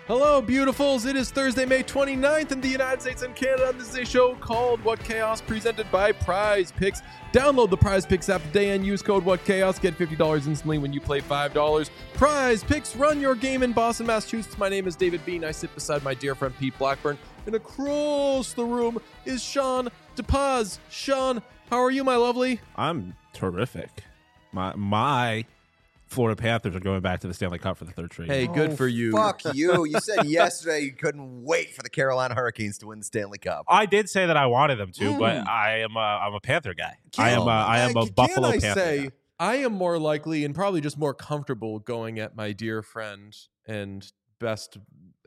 Hello, beautifuls. It is Thursday, May 29th in the United States and Canada, and this is a show called What Chaos, presented by Prize Picks. Download the Prize Picks app today and use code What Chaos. Get $50 instantly when you play $5. Prize Picks, run your game in Boston, Massachusetts. My name is David Bean. I sit beside my dear friend Pete Blackburn, and across the room is Sean DePaz. Sean, how are you, my lovely? I'm terrific. My Florida Panthers are going back to the Stanley Cup for the third straight. Hey, good for you. Fuck you. You said yesterday you couldn't wait for the Carolina Hurricanes to win the Stanley Cup. I did say that I wanted them to, but I'm a Panther guy. I am a Buffalo Panther guy. I am more likely and probably just more comfortable going at my dear friend and best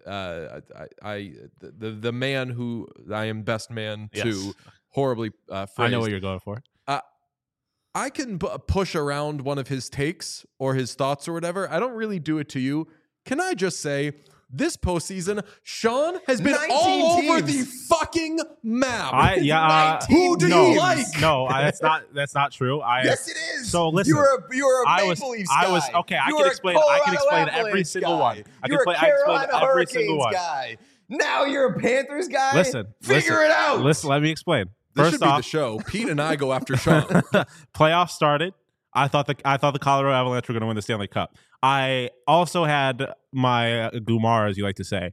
the man who I am best man to. Yes. Horribly phrased. I know what you're going for. I can push around one of his takes or his thoughts or whatever. I don't really do it to you. Can I just say, this postseason, Sean has been all over the fucking map. Who do you like? No, that's not true. Yes, it is. So listen, you're a Maple Leafs guy. I can explain every single one. You're a Carolina Hurricanes guy. Now you're a Panthers guy. Figure it out. Listen, let me explain. This First should be off, the show. Pete and I go after Sean. Playoffs started. I thought the Colorado Avalanche were going to win the Stanley Cup. I also had my Gumar, as you like to say,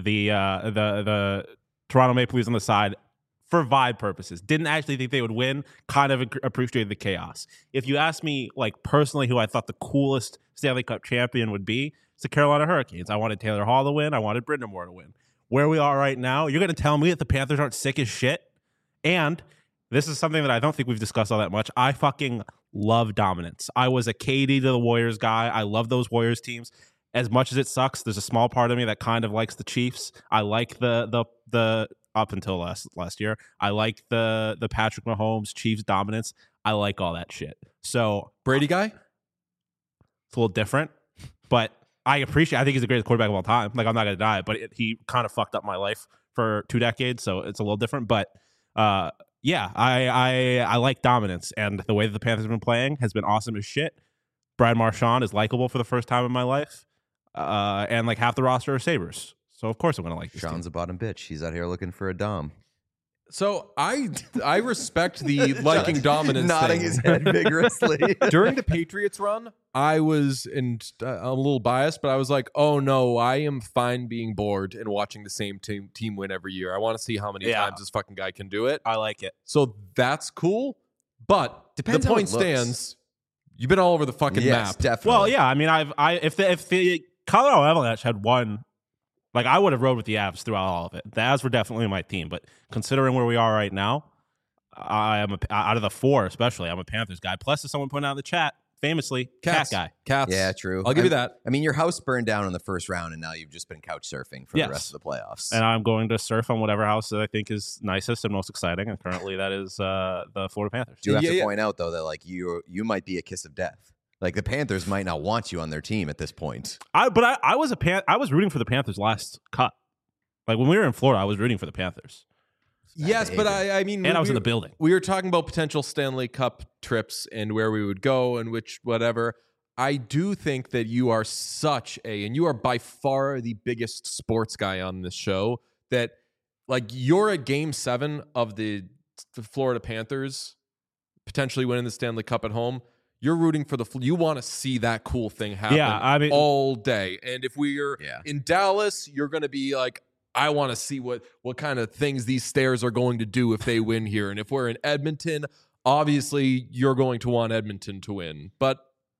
the Toronto Maple Leafs on the side for vibe purposes. Didn't actually think they would win. Kind of appreciated the chaos. If you ask me, like personally, who I thought the coolest Stanley Cup champion would be, it's the Carolina Hurricanes. I wanted Taylor Hall to win. I wanted Brind'Amour to win. Where we are right now, you're going to tell me that the Panthers aren't sick as shit? And this is something that I don't think we've discussed all that much. I fucking love dominance. I was a KD to the Warriors guy. I love those Warriors teams. As much as it sucks, there's a small part of me that kind of likes the Chiefs. I like the up until last year. I like the Patrick Mahomes Chiefs dominance. I like all that shit. So Brady guy? It's a little different, but I think he's the greatest quarterback of all time. Like, I'm not going to deny it, but he kind of fucked up my life for 2 decades, so it's a little different. But yeah, I like dominance, and the way that the Panthers have been playing has been awesome as shit. Brad Marchand is likable for the first time in my life, and like half the roster are Sabres. So of course I'm going to like this Sean's team. a bottom bitch. He's out here looking for a dom. So I respect the liking dominance nodding thing. his head vigorously. During the Patriots run, I was, and I'm a little biased, but I was like, oh no, I am fine being bored and watching the same team win every year. I want to see how many times this fucking guy can do it. I like it. So that's cool, but Depends the how point it looks. stands. You've been all over the fucking Yes, map. definitely. Well, yeah, I mean, if the Colorado Avalanche had won, like, I would have rode with the Avs throughout all of it. The Avs were definitely my team, but considering where we are right now, I am out of the 4, especially, I'm a Panthers guy. Plus, as someone pointed out in the chat, famously, Cats. cat guy. Cats. Yeah, true. I'll give you that. I mean, your house burned down in the first round, and now you've just been couch surfing for Yes. the rest of the playoffs. And I'm going to surf on whatever house that I think is nicest and most exciting, and currently that is the Florida Panthers. Do have to point out, though, that like you might be a kiss of death. Like, the Panthers might not want you on their team at this point. I was rooting for the Panthers last cut. Like, when we were in Florida, I was rooting for the Panthers. Yes, but I mean, And I was in the building. We were talking about potential Stanley Cup trips and where we would go and which whatever. I do think that you are and you are by far the biggest sports guy on this show, that like you're at Game 7 of the Florida Panthers potentially winning the Stanley Cup at home. You're rooting for you want to see that cool thing happen all day. And if we're in Dallas, you're going to be like, I want to see what kind of things these Stairs are going to do if they win here. And if we're in Edmonton, obviously you're going to want Edmonton to win. But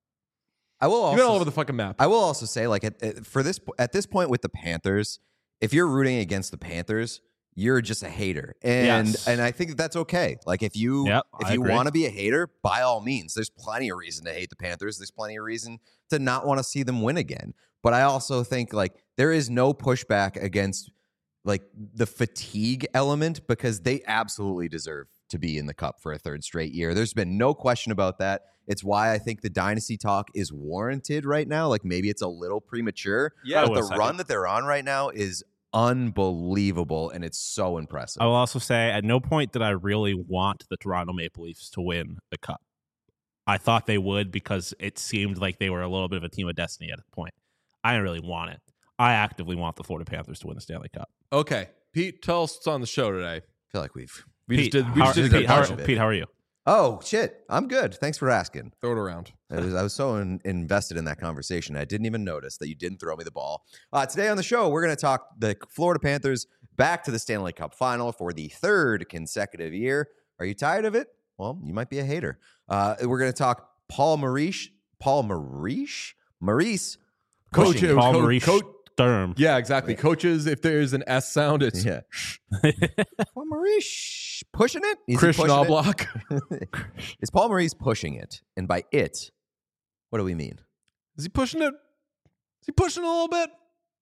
I will also, you've been all over the fucking map. I will also say, like, at this point with the Panthers, if you're rooting against the Panthers, you're just a hater, and I think that's okay. Like, if you want to be a hater, by all means, there's plenty of reason to hate the Panthers. There's plenty of reason to not want to see them win again. But I also think, like, there is no pushback against, like, the fatigue element, because they absolutely deserve to be in the Cup for a third straight year. There's been no question about that. It's why I think the dynasty talk is warranted right now. Like, maybe it's a little premature, but the run that they're on right now is unbelievable, and it's so impressive. I will also say, at no point did I really want the Toronto Maple Leafs to win the Cup. I thought they would, because it seemed like they were a little bit of a team of destiny at a point. I didn't really want it. I actively want the Florida Panthers to win the Stanley Cup. Okay, Pete, tell us what's on the show today. I feel like we Pete, just Pete, how are you? Oh, shit. I'm good. Thanks for asking. Throw it around. I was so invested in that conversation. I didn't even notice that you didn't throw me the ball. Today on the show, we're going to talk the Florida Panthers back to the Stanley Cup final for the third consecutive year. Are you tired of it? Well, you might be a hater. We're going to talk Maurice Sturm. Yeah, exactly. Yeah. Coaches, if there's an S sound, it's Paul Maurice pushing it. Chris Knobloch. Is Paul Maurice pushing it? And by it, what do we mean? Is he pushing it? Is he pushing a little bit?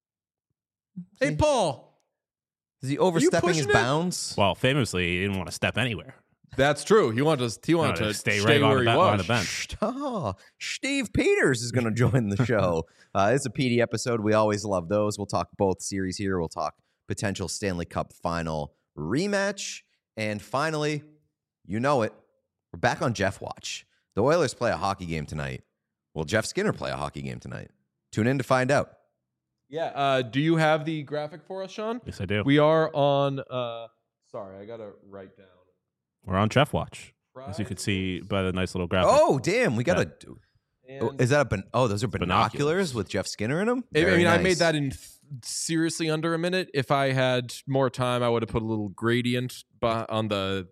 Hey, Paul. Is he overstepping his bounds? Well, famously, he didn't want to step anywhere. That's true. He wanted to stay right where he was. On the bench. Oh, Steve Peters is going to join the show. It's a PD episode. We always love those. We'll talk both series here. We'll talk potential Stanley Cup final rematch. And finally, you know it, we're back on Jeff Watch. The Oilers play a hockey game tonight. Will Jeff Skinner play a hockey game tonight? Tune in to find out. Yeah. Do you have the graphic for us, Sean? Yes, I do. We are on. Sorry, I got to write down. We're on Jeff Watch, as you can see by the nice little graphic. Oh, damn. We got to do. Is that those are binoculars with Jeff Skinner in them? Nice. I made that in seriously under a minute. If I had more time, I would have put a little gradient on the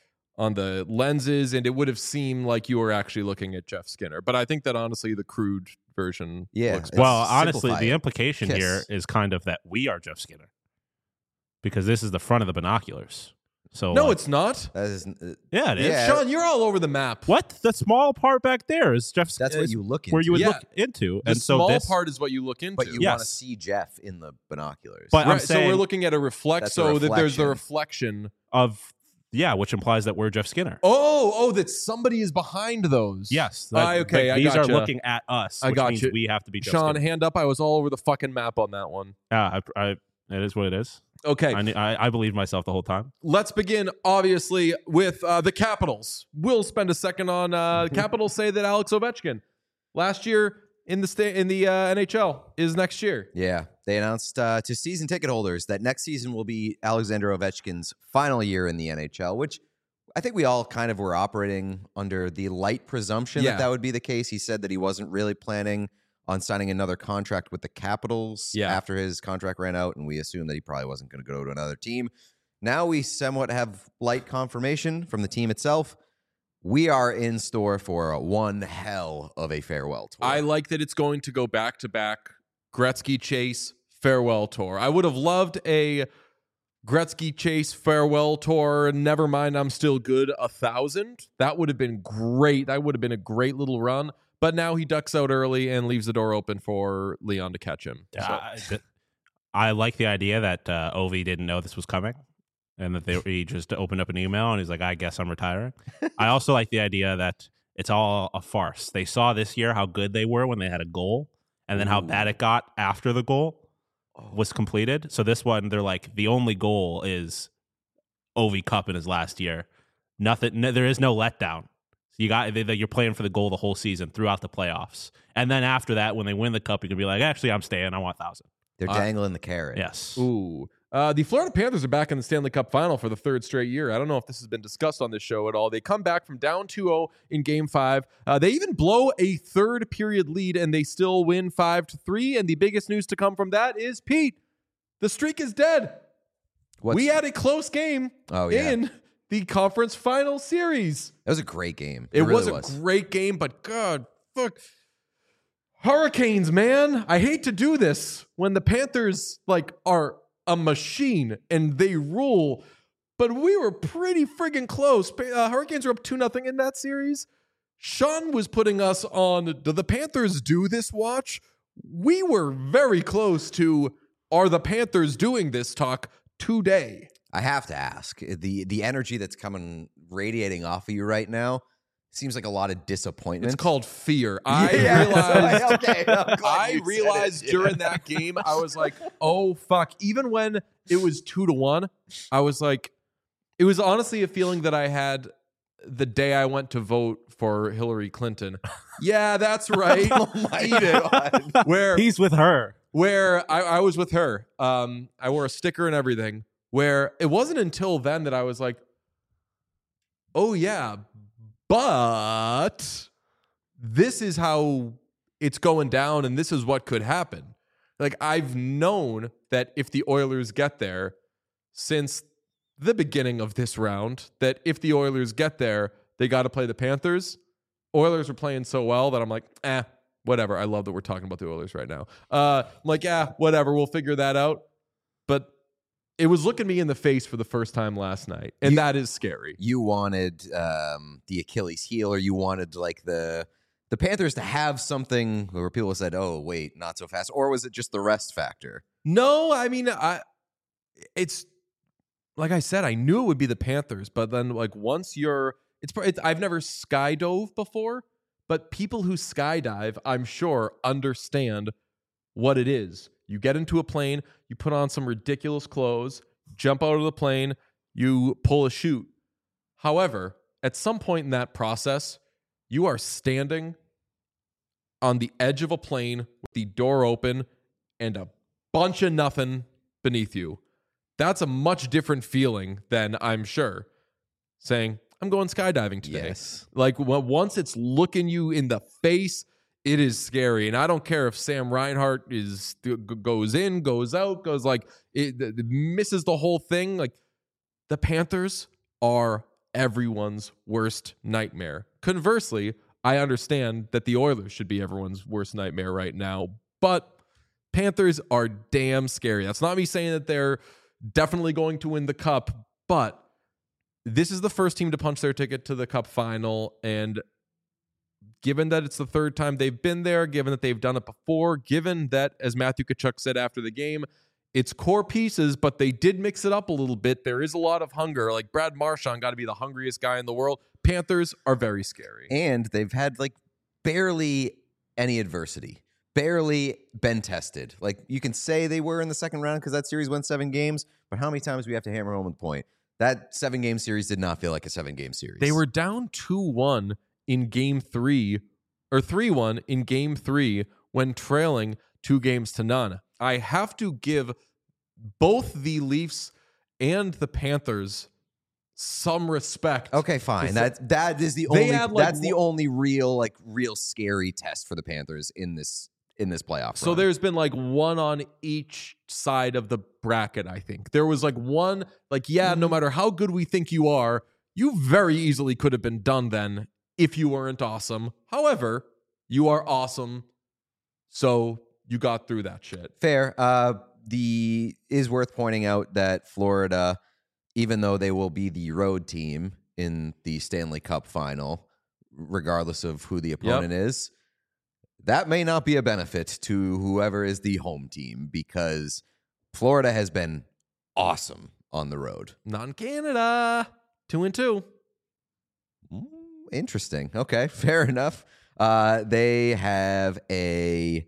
lenses, and it would have seemed like you were actually looking at Jeff Skinner. But I think that honestly, the crude version. looks well, honestly, the implication here is kind of that we are Jeff Skinner, because this is the front of the binoculars. So no, it's not. Yeah, it is. Yeah. Sean, you're all over the map. What? The small part back there is Jeff's. That's what you look into. Where you would look into. The small part is what you look into. But you want to see Jeff in the binoculars. But right, so we're looking at a reflect. So that there's the reflection of which implies that we're Jeff Skinner. Oh, that somebody is behind those. Yes. Okay, these are looking at us. Which means we have to be Jeff Sean, Skinner. hand up. I was all over the fucking map on that one. Yeah, it is what it is. Okay. I believed myself the whole time. Let's begin, obviously, with the Capitals. We'll spend a second on Capitals say that Alex Ovechkin last year in the NHL is next year. Yeah. They announced to season ticket holders that next season will be Alexander Ovechkin's final year in the NHL, which I think we all kind of were operating under the light presumption that would be the case. He said that he wasn't really planning on signing another contract with the Capitals after his contract ran out, and we assumed that he probably wasn't going to go to another team. Now we somewhat have light confirmation from the team itself. We are in store for one hell of a farewell tour. I like that it's going to go back-to-back Gretzky Chase farewell tour. I would have loved a Gretzky Chase farewell tour. Never mind, I'm still good 1,000. That would have been great. That would have been a great little run. But now he ducks out early and leaves the door open for Leon to catch him. I like the idea that Ovi didn't know this was coming, and that he just opened up an email and he's like, I guess I'm retiring. I also like the idea that it's all a farce. They saw this year how good they were when they had a goal, and then how bad it got after the goal was completed. So this one, they're like, the only goal is Ovi Cup in his last year. Nothing. There is no letdown. You're playing for the goal the whole season throughout the playoffs. And then after that, when they win the cup, you can be like, actually, I'm staying. I want 1,000. They're dangling the carrot. Yes. Ooh. The Florida Panthers are back in the Stanley Cup final for the third straight year. I don't know if this has been discussed on this show at all. They come back from down 2-0 in Game 5. They even blow a third period lead, and they still win 5-3. And the biggest news to come from that is, Pete, the streak is dead. We had a close game in the conference final series. It was a great game. It really was a great game, but God, fuck. Hurricanes, man. I hate to do this when the Panthers are a machine and they rule, but we were pretty friggin' close. Hurricanes were up 2-0 in that series. Sean was putting us on, do the Panthers do this watch? We were very close to, are the Panthers doing this talk today? I have to ask, the energy that's radiating off of you right now seems like a lot of disappointment. It's called fear. I realized during that game, I was like, oh, fuck. Even when it was 2-1, I was like, it was honestly a feeling that I had the day I went to vote for Hillary Clinton. Yeah, that's right. Oh my God. Where he's with her. where I was with her. I wore a sticker and everything, where it wasn't until then that I was like, oh yeah, but this is how it's going down and this is what could happen. Like, I've known that if the Oilers get there since the beginning of this round, that if the Oilers get there, they got to play the Panthers. Oilers are playing so well that I'm like, whatever. I love that we're talking about the Oilers right now. I'm like, whatever. We'll figure that out. But it was looking me in the face for the first time last night, and that is scary. You wanted the Achilles heel, or you wanted like the Panthers to have something where people said, "Oh, wait, not so fast," or was it just the rest factor? No, I mean, it's like I said, I knew it would be the Panthers, but then like once I've never skydove before, but people who skydive, I'm sure, understand what it is. You get into a plane, you put on some ridiculous clothes, jump out of the plane, you pull a chute. However, at some point in that process, you are standing on the edge of a plane with the door open and a bunch of nothing beneath you. That's a much different feeling than, I'm sure, saying, I'm going skydiving today. Yes. Like, once it's looking you in the face, it is scary. And I don't care if Sam Reinhart goes in, goes out, goes like, it misses the whole thing. Like, the Panthers are everyone's worst nightmare. Conversely, I understand that the Oilers should be everyone's worst nightmare right now, but Panthers are damn scary. That's not me saying that they're definitely going to win the cup, but this is the first team to punch their ticket to the cup final, and given that it's the third time they've been there, given that they've done it before, given that, as Matthew Tkachuk said after the game, it's core pieces, but they did mix it up a little bit. There is a lot of hunger. Like, Brad Marchand got to be the hungriest guy in the world. Panthers are very scary. And they've had, like, barely any adversity. Barely been tested. Like, you can say they were in the second round because that series went 7 games, but how many times do we have to hammer home the point? That 7-game series did not feel like a 7-game series. They were down 2-1 in game 3, or 3-1 in game 3 when trailing 2-0. I have to give both the Leafs and the Panthers some respect. Okay, fine. That is the only that's the only real scary test for the Panthers in this playoff. So there's been like one on each side of the bracket, I think. There was like one, like, no matter how good we think you are, you very easily could have been done then if you weren't awesome. However, you are awesome, so you got through that shit. Fair. Is worth pointing out that Florida, even though they will be the road team in the Stanley Cup final, regardless of who the opponent is, that may not be a benefit to whoever is the home team, because Florida has been awesome on the road. Not in Canada. 2-2. Interesting. Okay, fair enough. They have a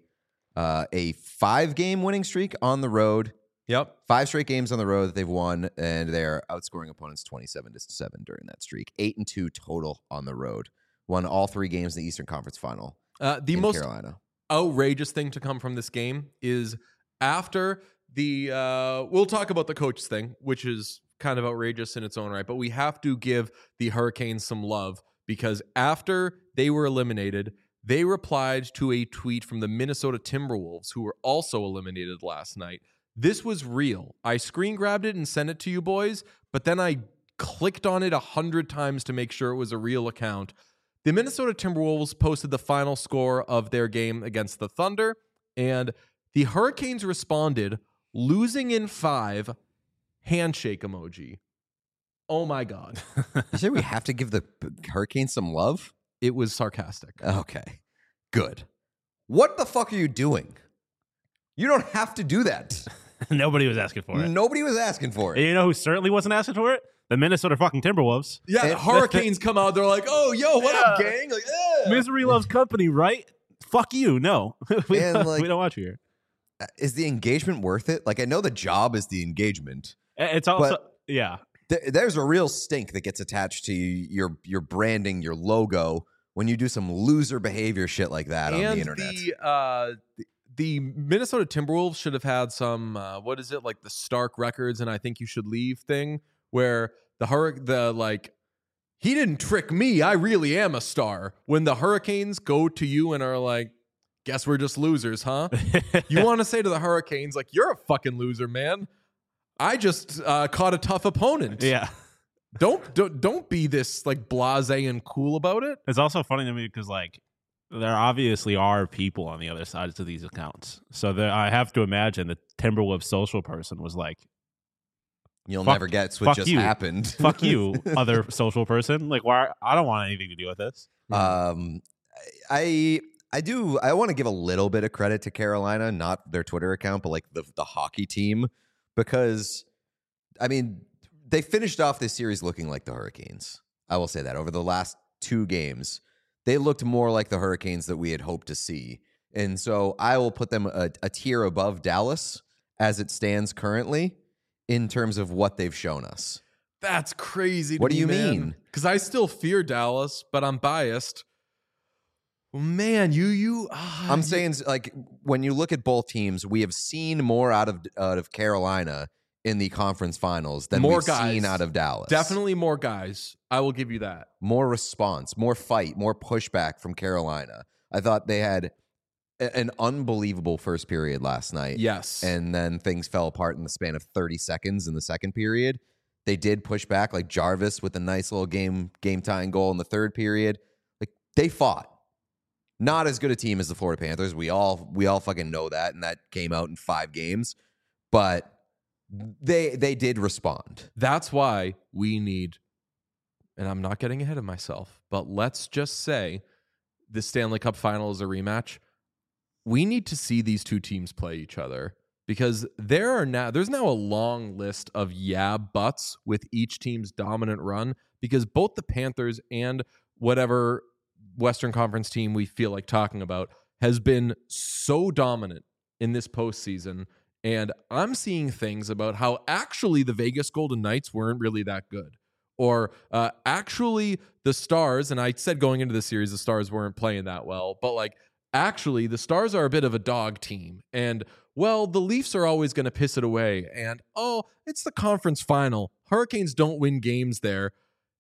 5-game winning streak on the road. Yep. 5 straight games on the road that they've won, and they're outscoring opponents 27-7 during that streak. 8-2 total on the road. Won all 3 games in the Eastern Conference Final. The most Carolina. Outrageous thing to come from this game is after the we'll talk about the coach thing, which is kind of outrageous in its own right, but we have to give the Hurricanes some love, because after they were eliminated, they replied to a tweet from the Minnesota Timberwolves, who were also eliminated last night. This was real. I screen grabbed it and sent it to you boys, but then I clicked on it 100 times to make sure it was a real account. The Minnesota Timberwolves posted the final score of their game against the Thunder, and the Hurricanes responded, losing in 5, handshake emoji. Oh my God. You say we have to give the Hurricanes some love? It was sarcastic. Okay, good. What the fuck are you doing? You don't have to do that. Nobody was asking for it. Nobody was asking for it. And you know who certainly wasn't asking for it? The Minnesota fucking Timberwolves. Yeah, the Hurricanes come out. They're like, oh, yo, what up, gang? Like, Misery loves company, right? Fuck you. No. we don't want you here. Is the engagement worth it? Like, I know the job is the engagement. It's also, there's a real stink that gets attached to your branding, your logo, when you do some loser behavior shit like that on the internet. the Minnesota Timberwolves should have had some what is it, like the Stark Records and I Think You Should Leave thing, where he didn't trick me, I really am a star. When the Hurricanes go to you and are like, guess we're just losers, huh? You want to say to the Hurricanes, like, you're a fucking loser, man. I just caught a tough opponent. Yeah. Don't be this like blasé and cool about it. It's also funny to me because like there obviously are people on the other sides of these accounts. So I have to imagine the Timberwolves social person was like, "You'll never guess what just happened." Fuck you, other social person. Like, why? I don't want anything to do with this. I want to give a little bit of credit to Carolina, not their Twitter account, but like the hockey team, because I mean, they finished off this series looking like the Hurricanes. I will say that over the last 2 games, they looked more like the Hurricanes that we had hoped to see. And so I will put them a tier above Dallas as it stands currently in terms of what they've shown us. That's crazy. What do you mean? Because I still fear Dallas, but I'm biased. Man, I'm saying, like, when you look at both teams, we have seen more out of Carolina in the conference finals than we've seen out of Dallas. Definitely more guys. I will give you that. More response, more fight, more pushback from Carolina. I thought they had an unbelievable first period last night. Yes. And then things fell apart in the span of 30 seconds in the second period. They did push back, like Jarvis with a nice little game-tying goal in the third period. Like, they fought. Not as good a team as the Florida Panthers. We all fucking know that, and that came out in 5 games. But they did respond. That's why we need, and I'm not getting ahead of myself, but let's just say the Stanley Cup final is a rematch. We need to see these two teams play each other, because there's now a long list of buts with each team's dominant run, because both the Panthers and whatever Western Conference team we feel like talking about has been so dominant in this postseason. And I'm seeing things about how actually the Vegas Golden Knights weren't really that good. Or actually the Stars, and I said going into the series the Stars weren't playing that well, but like actually the Stars are a bit of a dog team. And well, the Leafs are always going to piss it away. And it's the conference final. Hurricanes don't win games there.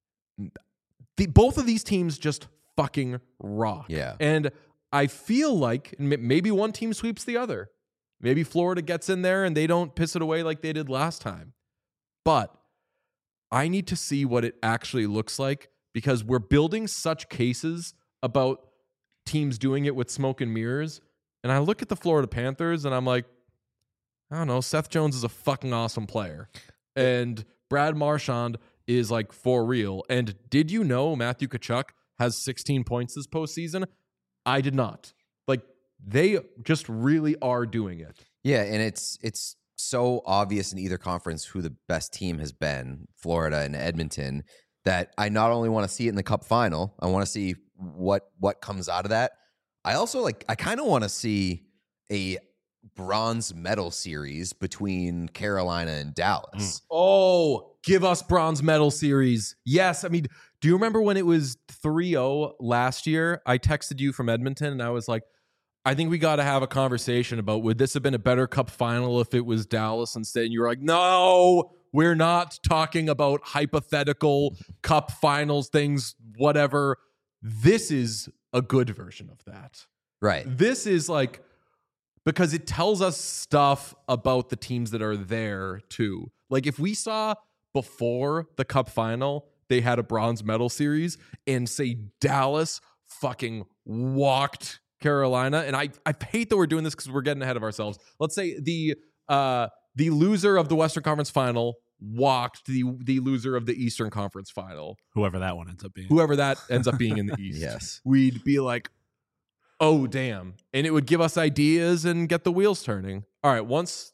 Both of these teams just fucking rock. Yeah. And I feel like maybe one team sweeps the other. Maybe Florida gets in there and they don't piss it away like they did last time. But I need to see what it actually looks like, because we're building such cases about teams doing it with smoke and mirrors. And I look at the Florida Panthers and I'm like, I don't know, Seth Jones is a fucking awesome player. And Brad Marchand is like for real. And did you know Matthew Tkachuk has 16 points this postseason? I did not. Like, they just really are doing it. Yeah, and it's so obvious in either conference who the best team has been, Florida and Edmonton, that I not only want to see it in the Cup final, I want to see what comes out of that. I also I kind of want to see a bronze medal series between Carolina and Dallas. Oh, give us bronze medal series. Yes, I mean, do you remember when it was 3-0 last year? I texted you from Edmonton and I was like, I think we got to have a conversation about, would this have been a better Cup final if it was Dallas instead? And you were like, no, we're not talking about hypothetical Cup finals things, whatever. This is a good version of that. Right. This is like, because it tells us stuff about the teams that are there too. Like, if we saw before the Cup final, they had a bronze medal series, and say Dallas fucking walked Carolina, and I hate that we're doing this because we're getting ahead of ourselves. Let's say the loser of the Western Conference final walked the loser of the Eastern Conference final. Whoever that one ends up being. Whoever that ends up being in the East. Yes. We'd be like, oh, damn. And it would give us ideas and get the wheels turning. All right, once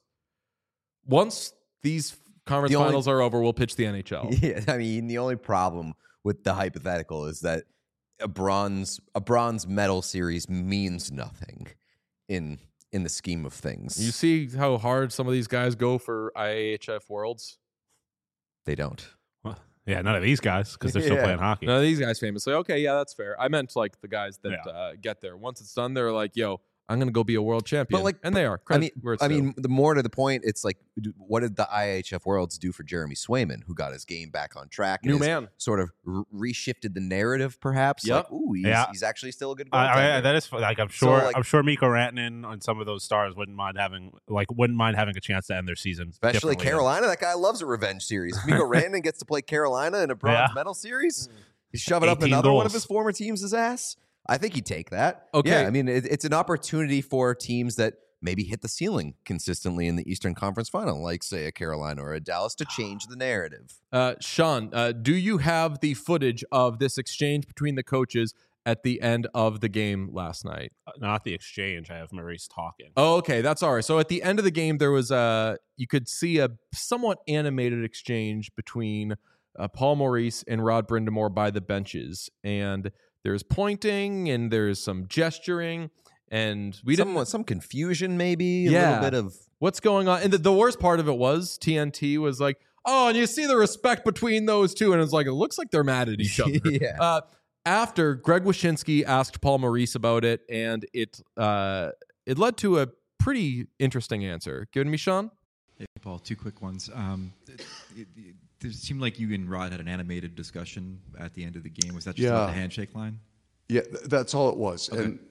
these conference finals are over, we'll pitch the NHL. Yeah, I mean, the only problem with the hypothetical is that a bronze medal series means nothing in the scheme of things. You see how hard some of these guys go for IHF Worlds? They don't. Well, yeah, none of these guys, because they're still playing hockey. None of these guys famously. Okay, yeah, that's fair. I meant like the guys that get there. Once it's done, they're like, yo, I'm going to go be a world champion. And they are. I mean, the more to the point, it's like, what did the IHF Worlds do for Jeremy Swayman, who got his game back on track? And New man. Sort of reshifted the narrative, perhaps. Yep. Like, ooh, he's actually still a good goaltender. That is like I'm sure Mikko Rantanen and some of those stars wouldn't mind having a chance to end their season. Especially Carolina. That guy loves a revenge series. If Mikko Rantanen gets to play Carolina in a bronze medal series, he's shoving up another one of his former teams' ass. I think he'd take that. Okay. Yeah, I mean, it's an opportunity for teams that maybe hit the ceiling consistently in the Eastern Conference Final, like, say, a Carolina or a Dallas, to change the narrative. Sean, do you have the footage of this exchange between the coaches at the end of the game last night? Not the exchange. I have Maurice talking. Oh, okay. That's all right. So at the end of the game, there was you could see a somewhat animated exchange between Paul Maurice and Rod Brind'Amour by the benches. And there's pointing and there's some gesturing, and some confusion, maybe a little bit of what's going on. And the worst part of it was TNT was like, "Oh, and you see the respect between those two," and it's like it looks like they're mad at each other. After Greg Wyshynski asked Paul Maurice about it, and it led to a pretty interesting answer. Give it to me, Sean. Hey, Paul. Two quick ones. It seemed like you and Rod had an animated discussion at the end of the game. Was that just about the handshake line? Yeah, that's all it was. Okay. And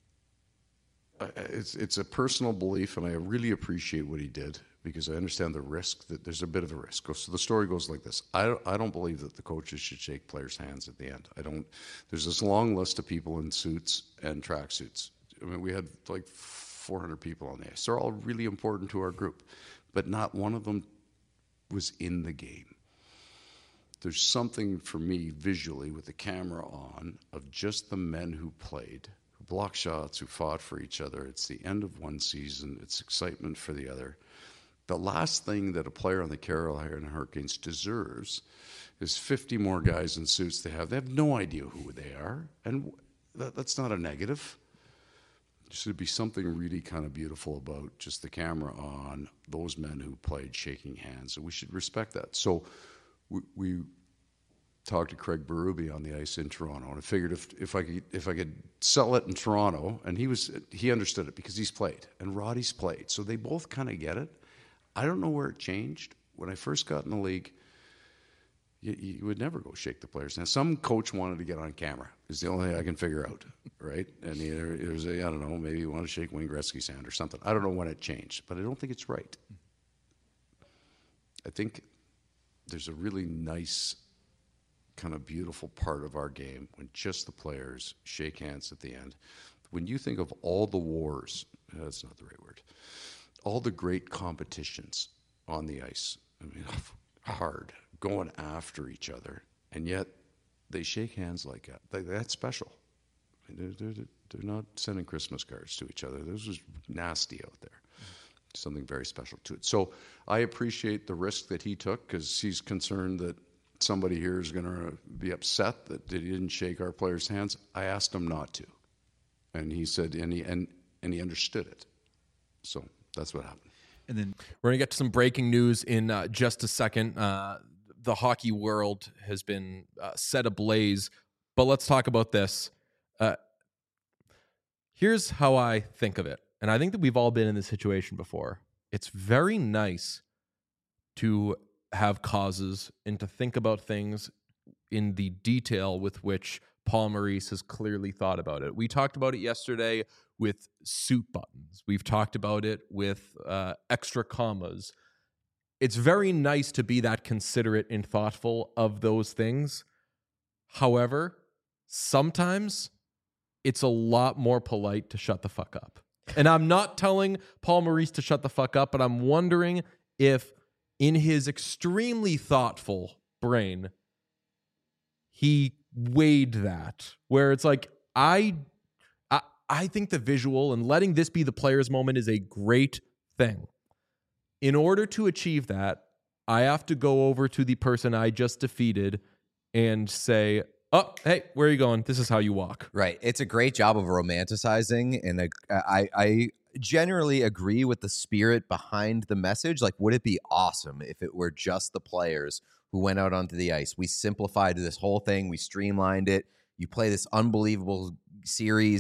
it's a personal belief, and I really appreciate what he did because I understand the risk, that there's a bit of a risk. So the story goes like this. I don't believe that the coaches should shake players' hands at the end. There's this long list of people in suits and tracksuits. I mean, we had like 400 people on the ice. They're all really important to our group, but not one of them was in the game. There's something for me visually with the camera on of just the men who played, who blocked shots, who fought for each other. It's the end of one season. It's excitement for the other. The last thing that a player on the Carolina Hurricanes deserves is 50 more guys in suits they have. They have no idea who they are, and that's not a negative. There should be something really kind of beautiful about just the camera on those men who played shaking hands, and we should respect that. So we talked to Craig Berube on the ice in Toronto, and I figured if I could sell it in Toronto, and he understood it because he's played, and Roddy's played, so they both kind of get it. I don't know where it changed. When I first got in the league, you would never go shake the players' hands. Some coach wanted to get on camera. Is the only thing I can figure out, right? And it was I don't know, maybe you want to shake Wayne Gretzky's hand or something. I don't know when it changed, but I don't think it's right. I think there's a really nice, kind of beautiful part of our game when just the players shake hands at the end. When you think of all the wars, that's not the right word, all the great competitions on the ice, I mean, hard, going after each other, and yet they shake hands like that. That's special. They're not sending Christmas cards to each other. This was nasty out there. Something very special to it. So I appreciate the risk that he took because he's concerned that somebody here is going to be upset that he didn't shake our players' hands. I asked him not to, and he said, and he understood it. So that's what happened. And then we're going to get to some breaking news in just a second. The hockey world has been set ablaze, but let's talk about this. Here's how I think of it, and I think that we've all been in this situation before. It's very nice to have causes and to think about things in the detail with which Paul Maurice has clearly thought about it. We talked about it yesterday with suit buttons. We've talked about it with extra commas. It's very nice to be that considerate and thoughtful of those things. However, sometimes it's a lot more polite to shut the fuck up. And I'm not telling Paul Maurice to shut the fuck up, but I'm wondering if in his extremely thoughtful brain, he weighed that, where it's like, I think the visual and letting this be the player's moment is a great thing. In order to achieve that, I have to go over to the person I just defeated and say, oh, hey, where are you going? This is how you walk. Right. It's a great job of romanticizing, and I generally agree with the spirit behind the message. Like, would it be awesome if it were just the players who went out onto the ice? We simplified this whole thing. We streamlined it. You play this unbelievable series,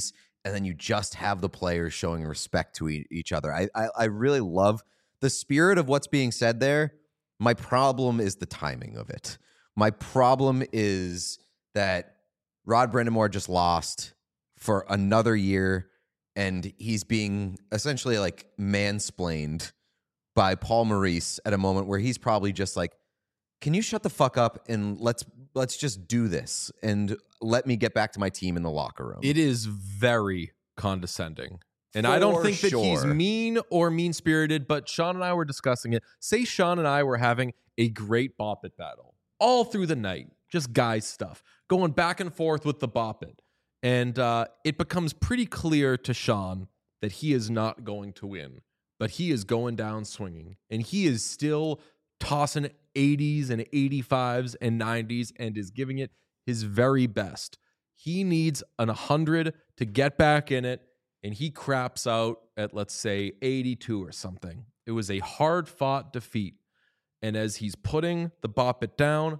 and then you just have the players showing respect to each other. I really love the spirit of what's being said there. My problem is the timing of it. My problem is that Rod Brind'Amour just lost for another year, and he's being essentially like mansplained by Paul Maurice at a moment where he's probably just like, can you shut the fuck up and let's just do this and let me get back to my team in the locker room. It is very condescending. And I don't think that he's mean or mean-spirited, but Sean and I were discussing it. Say Sean and I were having a great Bop It battle all through the night, just guys stuff, going back and forth with the Bop It. And it becomes pretty clear to Sean that he is not going to win, but he is going down swinging. And he is still tossing 80s and 85s and 90s and is giving it his very best. He needs an 100 to get back in it, and he craps out at, let's say, 82 or something. It was a hard-fought defeat. And as he's putting the Bop It down,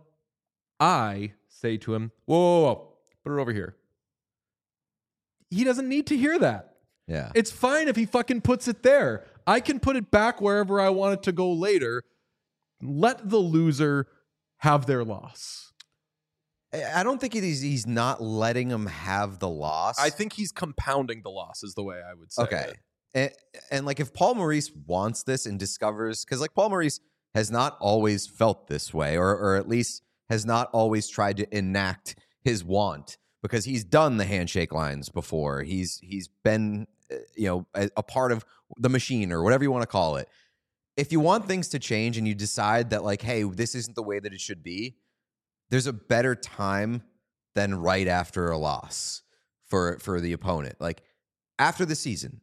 I say to him, whoa, put it over here. He doesn't need to hear that. Yeah. It's fine if he fucking puts it there. I can put it back wherever I want it to go later. Let the loser have their loss. I don't think he's not letting him have the loss. I think he's compounding the loss is the way I would say. Okay. And like if Paul Maurice wants this and discovers, because like Paul Maurice has not always felt this way, or at least has not always tried to enact his want, because he's done the handshake lines before. He's been a part of the machine or whatever you want to call it. If you want things to change and you decide that like, hey, this isn't the way that it should be, there's a better time than right after a loss for the opponent. Like after the season,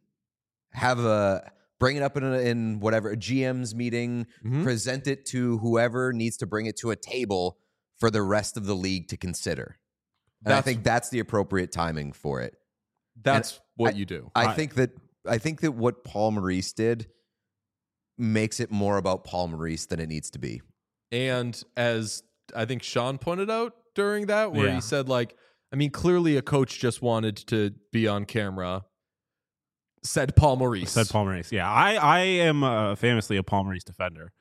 bring it up in whatever a GM's meeting, present it to whoever needs to bring it to a table for the rest of the league to consider. And I think that's the appropriate timing for it. That's what you do. I think that what Paul Maurice did makes it more about Paul Maurice than it needs to be. And as I think Sean pointed out during that, where he said, like, I mean, clearly a coach just wanted to be on camera. Said Paul Maurice. Yeah, I am famously a Paul Maurice defender.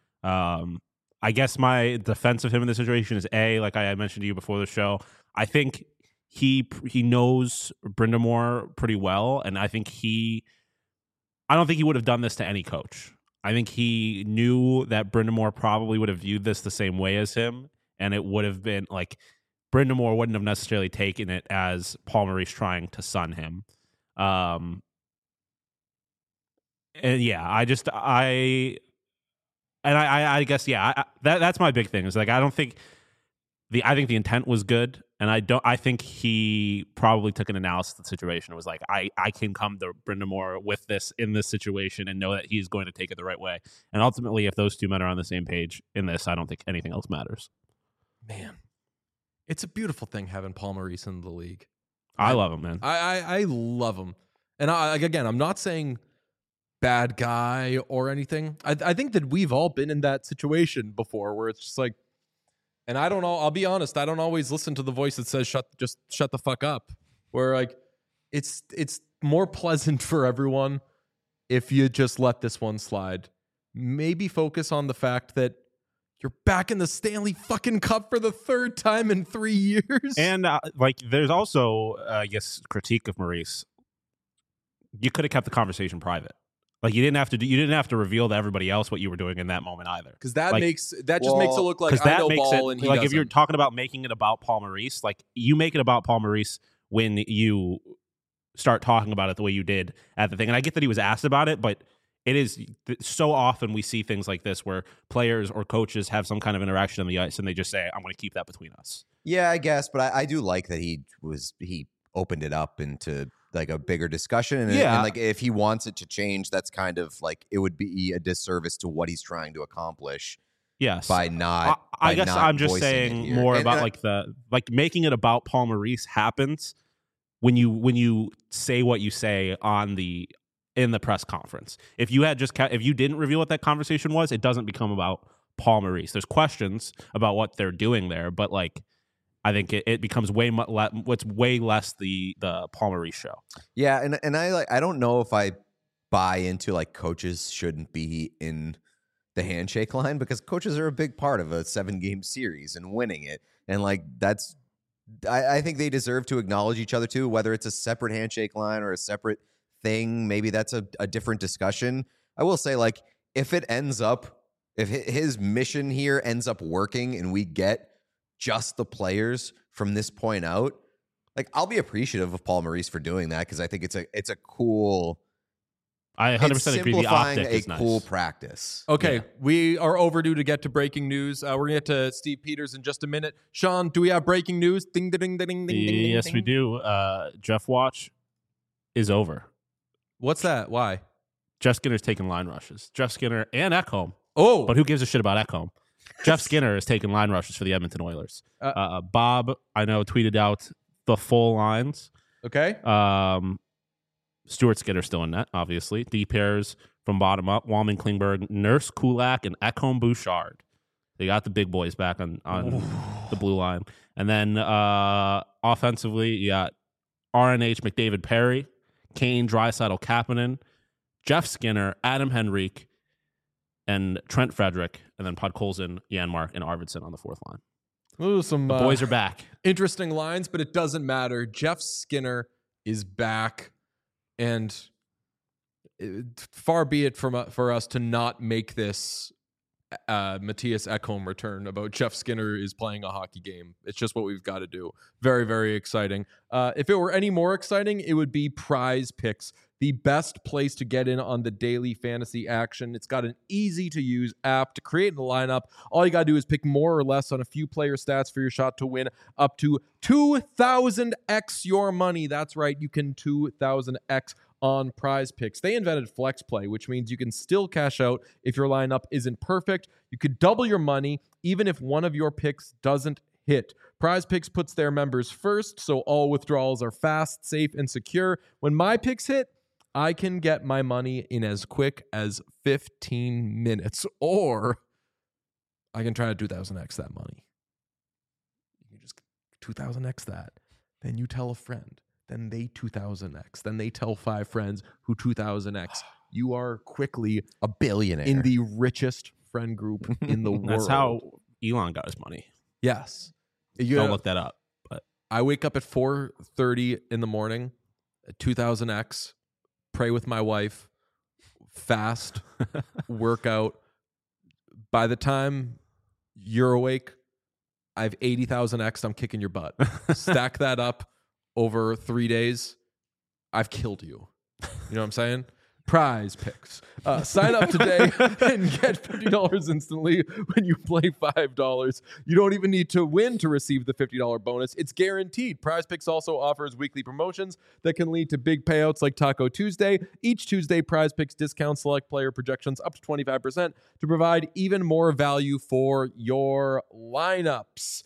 I guess my defense of him in this situation is like I mentioned to you before the show, I think he knows Brind'Amour pretty well, and I don't think he would have done this to any coach. I think he knew that Brind'Amour probably would have viewed this the same way as him, and it would have been like Brind'Amour wouldn't have necessarily taken it as Paul Maurice trying to sun him. And yeah, I guess that's my big thing. Is like I think the intent was good, and I think he probably took an analysis of the situation and was like, I can come to Brind'Amour with this in this situation and know that he's going to take it the right way. And ultimately, if those two men are on the same page in this, I don't think anything else matters. Man, it's a beautiful thing having Paul Maurice in the league. I love him, man. I love him. And again, I'm not saying bad guy or anything. I think that we've all been in that situation before where it's just like, and I don't know, I'll be honest, I don't always listen to the voice that says just shut the fuck up. Where like it's more pleasant for everyone if you just let this one slide. Maybe focus on the fact that you're back in the Stanley fucking Cup for the third time in 3 years. And there's also, I guess, critique of Maurice. You could have kept the conversation private. Like you didn't have to reveal to everybody else what you were doing in that moment either. Because that makes it look like I know ball and he doesn't. If you're talking about making it about Paul Maurice, like you make it about Paul Maurice when you start talking about it the way you did at the thing. And I get that he was asked about it, but it is so often we see things like this where players or coaches have some kind of interaction on the ice and they just say, I'm going to keep that between us. Yeah, I guess. But I do like that he opened it up into like a bigger discussion. And like if he wants it to change, that's kind of like it would be a disservice to what he's trying to accomplish. Yes. By not. I guess I'm just saying more about making it about Paul Maurice happens when you say what you say in the press conference. If you didn't reveal what that conversation was, it doesn't become about Paul Maurice. There's questions about what they're doing there, but like I think it becomes way less the Paul Maurice show. Yeah, and I don't know if I buy into like coaches shouldn't be in the handshake line, because coaches are a big part of a 7-game series and winning it. And like I think they deserve to acknowledge each other too, whether it's a separate handshake line or a separate thing. Maybe that's a different discussion. I will say, like, if his mission here ends up working and we get just the players from this point out, like, I'll be appreciative of Paul Maurice for doing that, because I think it's a cool. I 100% agree. The optic is nice. Cool practice. Okay, we are overdue to get to breaking news. We're gonna get to Steve Peters in just a minute. Sean, do we have breaking news? Ding, ding, ding, ding, ding. Yes, ding. we do. Jeff Watch is over. What's that? Why? Jeff Skinner's taking line rushes. Jeff Skinner and Ekholm. Oh, but who gives a shit about Ekholm? Jeff Skinner is taking line rushes for the Edmonton Oilers. Bob, I know, tweeted out the full lines. Okay. Stuart Skinner still in net, obviously. D pairs from bottom up: Walman, Klingberg, Nurse, Kulak, and Ekholm Bouchard. They got the big boys back on the blue line. And then offensively, you got RNH, McDavid, Perry, Kane, Draisaitl, Kapanen, Jeff Skinner, Adam Henrique, and Trent Frederick, and then Podkolzin, Janmark, and Arvidsson on the fourth line. Ooh, the boys are back. Interesting lines, but it doesn't matter. Jeff Skinner is back, and far be it for us to not make this Matthias Ekholm return about Jeff Skinner is playing a hockey game. It's just what we've got to do. Very, very exciting. If it were any more exciting, it would be Prize Picks, the best place to get in on the daily fantasy action. It's got an easy-to-use app to create a lineup. All you got to do is pick more or less on a few player stats for your shot to win up to 2,000x your money. That's right, you can 2,000x on Prize Picks. They invented Flex Play, which means you can still cash out if your lineup isn't perfect. You could double your money even if one of your picks doesn't hit. Prize Picks puts their members first, so all withdrawals are fast, safe, and secure. When my picks hit, I can get my money in as quick as 15 minutes, or I can try to 2,000x that money. You can just 2,000x that. Then you tell a friend. Then they 2,000x. Then they tell 5 friends who 2,000x. You are quickly a billionaire in the richest friend group in the world. That's how Elon got his money. Yes. Don't look that up. But I wake up at 4:30 in the morning, at 2,000x, pray with my wife, fast, workout. By the time you're awake, I have 80,000x. I'm kicking your butt. Stack that up over 3 days. I've killed you. You know what I'm saying? Prize Picks. Sign up today and get $50 instantly when you play $5. You don't even need to win to receive the $50 bonus. It's guaranteed. Prize Picks also offers weekly promotions that can lead to big payouts like Taco Tuesday. Each Tuesday, Prize Picks discounts select player projections up to 25% to provide even more value for your lineups.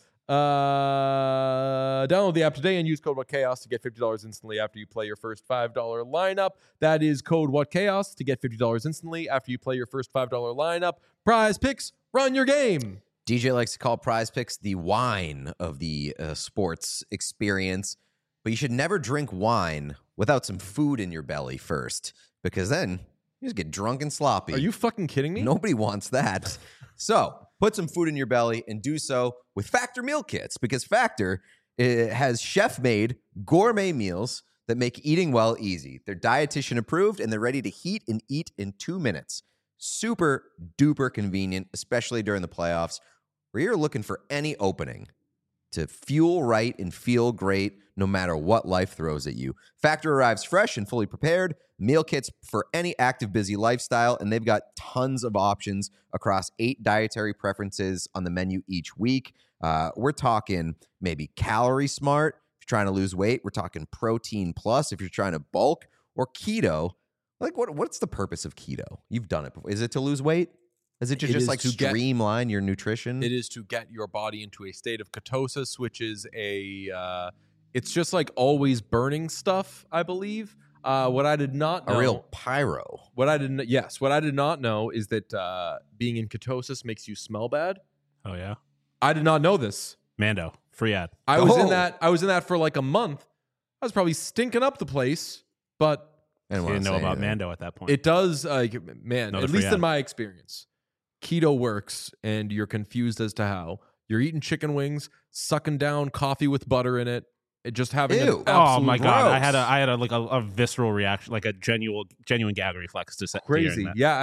Download the app today and use code WhatChaos to get $50 instantly after you play your first $5 lineup. That is code WhatChaos to get $50 instantly after you play your first $5 lineup. Prize Picks, run your game. DJ likes to call Prize Picks the wine of the sports experience, but you should never drink wine without some food in your belly first, because then you just get drunk and sloppy. Are you fucking kidding me? Nobody wants that. So put some food in your belly and do so with Factor meal kits, because Factor has chef-made gourmet meals that make eating well easy. They're dietitian approved and they're ready to heat and eat in 2 minutes. Super duper convenient, especially during the playoffs, where you're looking for any opening to fuel right and feel great no matter what life throws at you. Factor arrives fresh and fully prepared. Meal kits for any active, busy lifestyle, and they've got tons of options across 8 dietary preferences on the menu each week. We're talking maybe Calorie Smart if you're trying to lose weight. We're talking Protein Plus if you're trying to bulk, or Keto. Like, what's the purpose of keto? You've done it before. Is it to lose weight? Is it just like streamline your nutrition? It is to get your body into a state of ketosis, which is it's just like always burning stuff, I believe. What I did not know, a real pyro. What I did not know is that being in ketosis makes you smell bad. Oh yeah, I did not know this. Mando. Free ad. I was in that for like a month. I was probably stinking up the place, but you didn't know about Mando at that point. It does, man. At least in my experience, keto works, and you're confused as to how. You're eating chicken wings, sucking down coffee with butter in it, and just having an absolute oh my god! gross. I had a visceral reaction, like a genuine gag reflex to crazy. Yeah,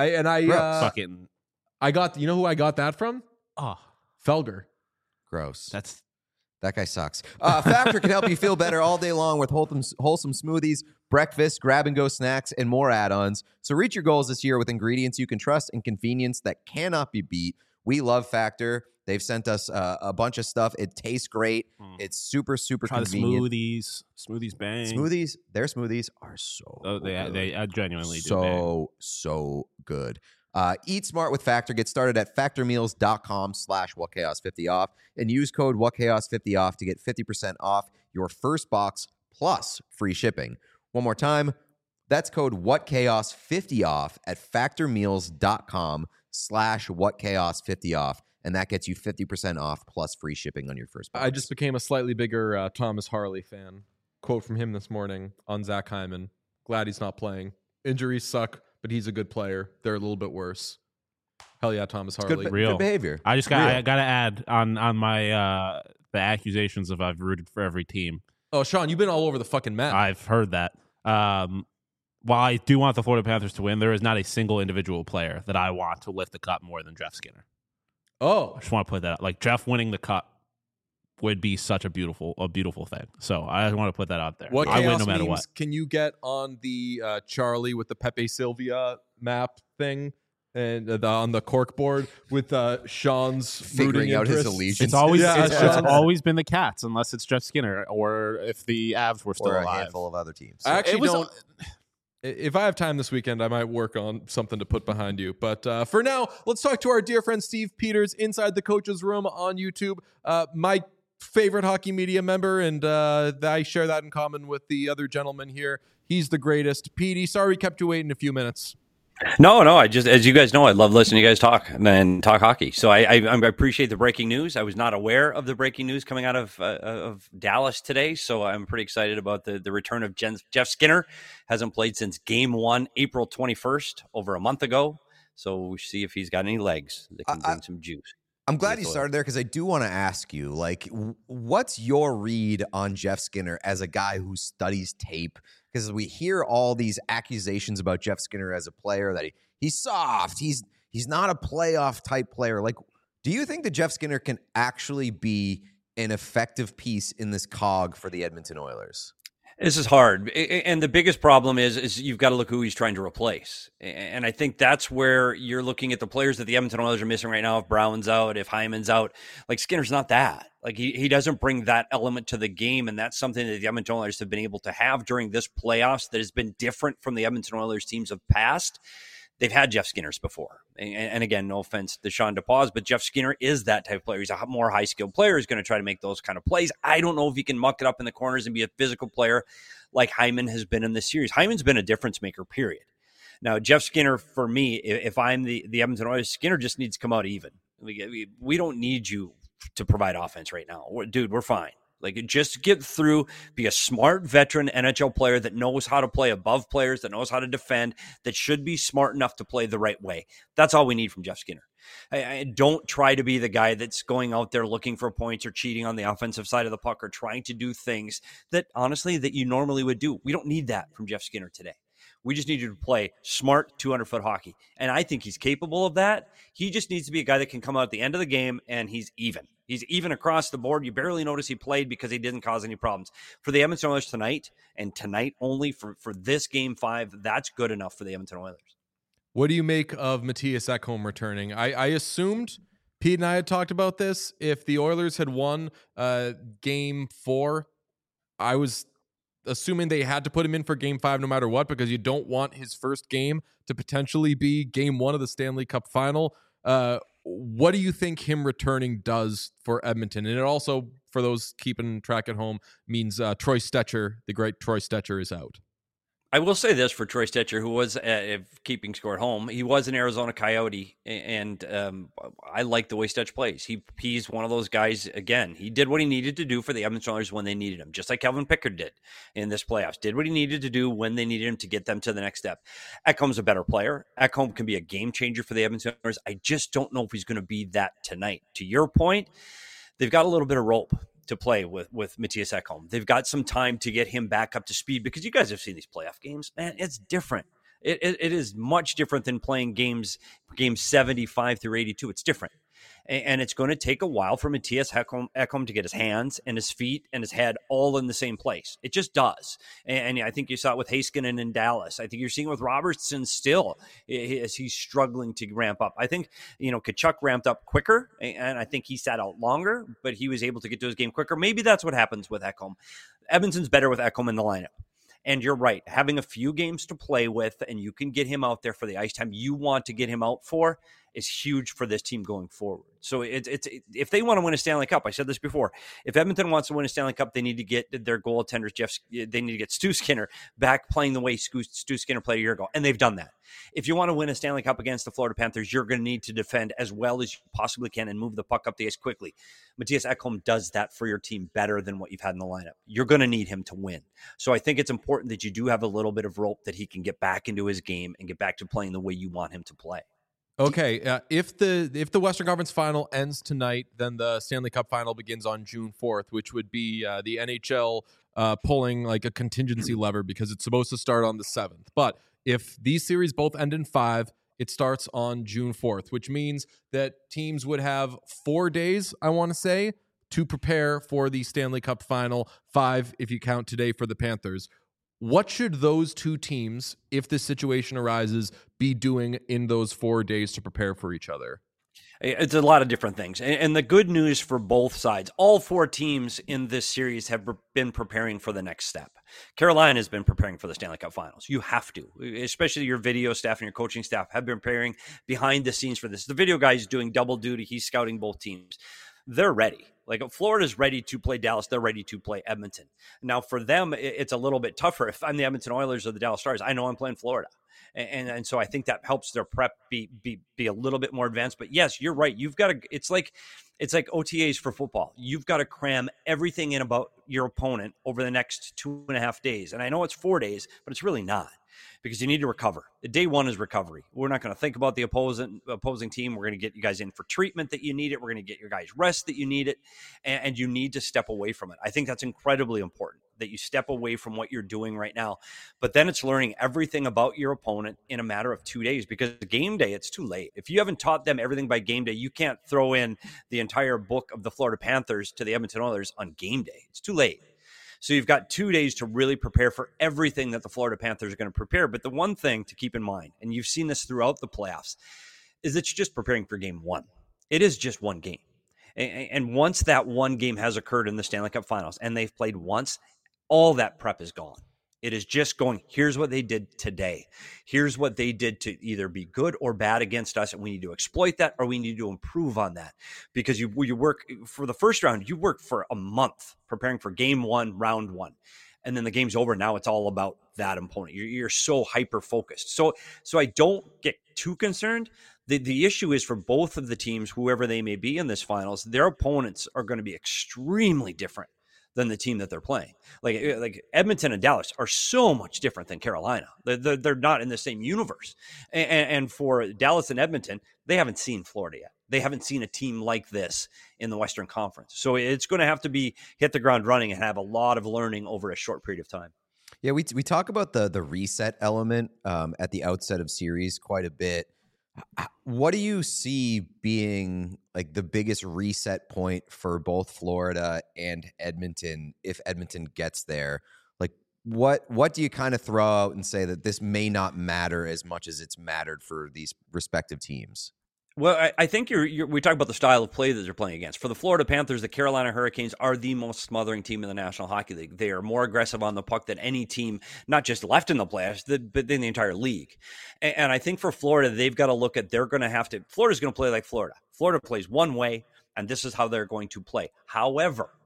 I got. You know who I got that from? Oh, Felger. Gross. That guy sucks. Factor can help you feel better all day long with wholesome smoothies, breakfast, grab-and-go snacks, and more add-ons. So reach your goals this year with ingredients you can trust and convenience that cannot be beat. We love Factor. They've sent us a bunch of stuff. It tastes great. It's super, super convenient. Smoothies bang. Their smoothies are so good. They genuinely so good. Eat smart with Factor. Get started at factormeals.com/whatchaos50off and use code whatchaos50off to get 50% off your first box plus free shipping. One more time, that's code whatchaos50off at factormeals.com/whatchaos50off, and that gets you 50% off plus free shipping on your first box. I just became a slightly bigger Thomas Harley fan. Quote from him this morning on Zach Hyman. Glad he's not playing. Injuries suck, but he's a good player. They're a little bit worse. Hell yeah, Thomas Harley. Good behavior. I got to add on my the accusations of I've rooted for every team. Oh, Sean, you've been all over the fucking map. I've heard that. While I do want the Florida Panthers to win, there is not a single individual player that I want to lift the cup more than Jeff Skinner. Oh, I just want to put that out. Like Jeff winning the cup would be such a beautiful thing. So I want to put that out there. What I chaos win no matter memes what. can you get on the Charlie with the Pepe Sylvia map thing and on the cork board with Sean's figuring out his allegiance? It's always been the Cats, unless it's Jeff Skinner or if the Avs were still or a alive. handful of other teams. I actually don't. If I have time this weekend, I might work on something to put behind you. But for now, let's talk to our dear friend Steve Peters inside the coach's room on YouTube. My favorite hockey media member, and I share that in common with the other gentleman here. He's the greatest. Petey, sorry we kept you waiting a few minutes. No, I just, as you guys know, I love listening to you guys talk and talk hockey. So I appreciate the breaking news. I was not aware of the breaking news coming out of Dallas today, so I'm pretty excited about the return of Jeff Skinner. Hasn't played since Game 1, April 21st, over a month ago. So we'll see if he's got any legs that can bring some juice. I'm glad you started there because I do want to ask you, like, what's your read on Jeff Skinner as a guy who studies tape? Because we hear all these accusations about Jeff Skinner as a player, that he's soft, he's not a playoff type player. Like, do you think that Jeff Skinner can actually be an effective piece in this cog for the Edmonton Oilers? This is hard. And the biggest problem is you've got to look who he's trying to replace. And I think that's where you're looking at the players that the Edmonton Oilers are missing right now. If Brown's out, if Hyman's out, like Skinner's not that. Like he doesn't bring that element to the game. And that's something that the Edmonton Oilers have been able to have during this playoffs that has been different from the Edmonton Oilers teams of past. They've had Jeff Skinners before. And again, no offense to Sean DePaz, but Jeff Skinner is that type of player. He's a more high-skilled player. He's going to try to make those kind of plays. I don't know if he can muck it up in the corners and be a physical player like Hyman has been in this series. Hyman's been a difference maker, period. Now, Jeff Skinner, for me, if I'm the Edmonton Oilers, Skinner just needs to come out even. We don't need you to provide offense right now. Dude, we're fine. Like, just get through, be a smart veteran NHL player that knows how to play above players, that knows how to defend, that should be smart enough to play the right way. That's all we need from Jeff Skinner. I don't try to be the guy that's going out there looking for points or cheating on the offensive side of the puck or trying to do things that, honestly, that you normally would do. We don't need that from Jeff Skinner today. We just need you to play smart 200-foot hockey. And I think he's capable of that. He just needs to be a guy that can come out at the end of the game and he's even. He's even across the board. You barely notice he played because he didn't cause any problems. For the Edmonton Oilers tonight, and tonight only for this Game 5, that's good enough for the Edmonton Oilers. What do you make of Matthias Ekholm returning? I assumed, Pete and I had talked about this, if the Oilers had won Game 4, I was assuming they had to put him in for Game 5 no matter what, because you don't want his first game to potentially be Game 1 of the Stanley Cup Final. What do you think him returning does for Edmonton? And it also, for those keeping track at home, means Troy Stecher, the great Troy Stecher, is out. I will say this for Troy Stecher, who was keeping score at home. He was an Arizona Coyote, and I like the way Stetch plays. He's one of those guys, again, he did what he needed to do for the Edmonton Oilers when they needed him, just like Calvin Pickard did in this playoffs. Did what he needed to do when they needed him to get them to the next step. Ekholm's a better player. Ekholm can be a game changer for the Edmonton Oilers. I just don't know if he's going to be that tonight. To your point, they've got a little bit of rope to play with Mattias Ekholm. They've got some time to get him back up to speed because you guys have seen these playoff games. Man, it's different. It is much different than playing games 75 through 82. It's different. And it's going to take a while for Mattias Ekholm to get his hands and his feet and his head all in the same place. It just does. And I think you saw it with Heiskanen in Dallas. I think you're seeing it with Robertson still as he's struggling to ramp up. I think, Tkachuk ramped up quicker, and I think he sat out longer, but he was able to get to his game quicker. Maybe that's what happens with Ekholm. Edmonton's better with Ekholm in the lineup. And you're right, having a few games to play with and you can get him out there for the ice time you want to get him out for is huge for this team going forward. So it's if they want to win a Stanley Cup, I said this before, if Edmonton wants to win a Stanley Cup, they need to get their goaltenders, they need to get Stu Skinner back playing the way Stu Skinner played a year ago, and they've done that. If you want to win a Stanley Cup against the Florida Panthers, you're going to need to defend as well as you possibly can and move the puck up the ice quickly. Mattias Ekholm does that for your team better than what you've had in the lineup. You're going to need him to win. So I think it's important that you do have a little bit of rope that he can get back into his game and get back to playing the way you want him to play. Okay, if the Western Conference Final ends tonight, then the Stanley Cup Final begins on June 4th, which would be the NHL pulling like a contingency lever because it's supposed to start on the 7th. But if these series both end in 5, it starts on June 4th, which means that teams would have 4 days, I want to say, to prepare for the Stanley Cup Final, 5 if you count today for the Panthers. What should those two teams, if this situation arises, be doing in those 4 days to prepare for each other? It's a lot of different things. And the good news for both sides, all 4 teams in this series have been preparing for the next step. Carolina has been preparing for the Stanley Cup Finals. You have to, especially your video staff and your coaching staff have been preparing behind the scenes for this. The video guy is doing double duty. He's scouting both teams. They're ready. Like Florida's ready to play Dallas. They're ready to play Edmonton. Now for them, it's a little bit tougher. If I'm the Edmonton Oilers or the Dallas Stars, I know I'm playing Florida. And so I think that helps their prep be a little bit more advanced. But yes, you're right. You've got to, it's like OTAs for football. You've got to cram everything in about your opponent over the next 2.5 days. And I know it's 4 days, but it's really not, because you need to recover. Day one is recovery. We're not going to think about the opposing team. We're going to get you guys in for treatment that you need it. We're going to get your guys rest that you need it. And you need to step away from it. I think that's incredibly important, that you step away from what you're doing right now. But then it's learning everything about your opponent in a matter of 2 days, because game day, it's too late. If you haven't taught them everything by game day, you can't throw in the entire book of the Florida Panthers to the Edmonton Oilers on game day. It's too late. So you've got 2 days to really prepare for everything that the Florida Panthers are going to prepare. But the one thing to keep in mind, and you've seen this throughout the playoffs, is that you're just preparing for game one. It is just one game. And once that one game has occurred in the Stanley Cup Finals and they've played once, all that prep is gone. It is just going, here's what they did today. Here's what they did to either be good or bad against us, and we need to exploit that, or we need to improve on that. Because you work for the first round, you work for a month preparing for game one, round one. And then the game's over. Now it's all about that opponent. You're so hyper-focused. So I don't get too concerned. The issue is for both of the teams, whoever they may be in this finals, their opponents are going to be extremely different than the team that they're playing. Like Edmonton and Dallas are so much different than Carolina. They're not in the same universe. And for Dallas and Edmonton, they haven't seen Florida yet. They haven't seen a team like this in the Western Conference. So it's going to have to be hit the ground running and have a lot of learning over a short period of time. Yeah, we talk about the reset element at the outset of series quite a bit. What do you see being like the biggest reset point for both Florida and Edmonton if Edmonton gets there? Like, what do you kind of throw out and say that this may not matter as much as it's mattered for these respective teams? Well, I think we talk about the style of play that they're playing against. For the Florida Panthers, the Carolina Hurricanes are the most smothering team in the National Hockey League. They are more aggressive on the puck than any team, not just left in the playoffs, but in the entire league. And I think for Florida, they've got to look at, Florida's going to play like Florida. Florida plays one way, and this is how they're going to play. However,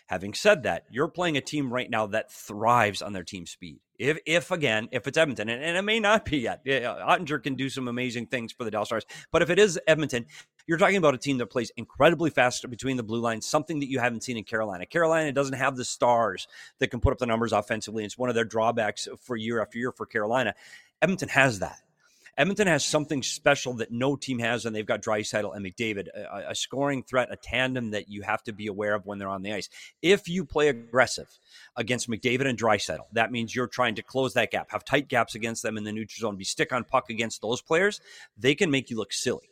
Having said that, you're playing a team right now that thrives on their team speed. If it's Edmonton, and it may not be yet, Ottinger can do some amazing things for the Dallas Stars. But if it is Edmonton, you're talking about a team that plays incredibly fast between the blue lines, something that you haven't seen in Carolina. Carolina doesn't have the stars that can put up the numbers offensively. It's one of their drawbacks for year after year for Carolina. Edmonton has that. Edmonton has something special that no team has, and they've got Draisaitl and McDavid, a scoring threat, a tandem that you have to be aware of when they're on the ice. If you play aggressive against McDavid and Draisaitl, that means you're trying to close that gap, have tight gaps against them in the neutral zone, be stick on puck against those players. They can make you look silly.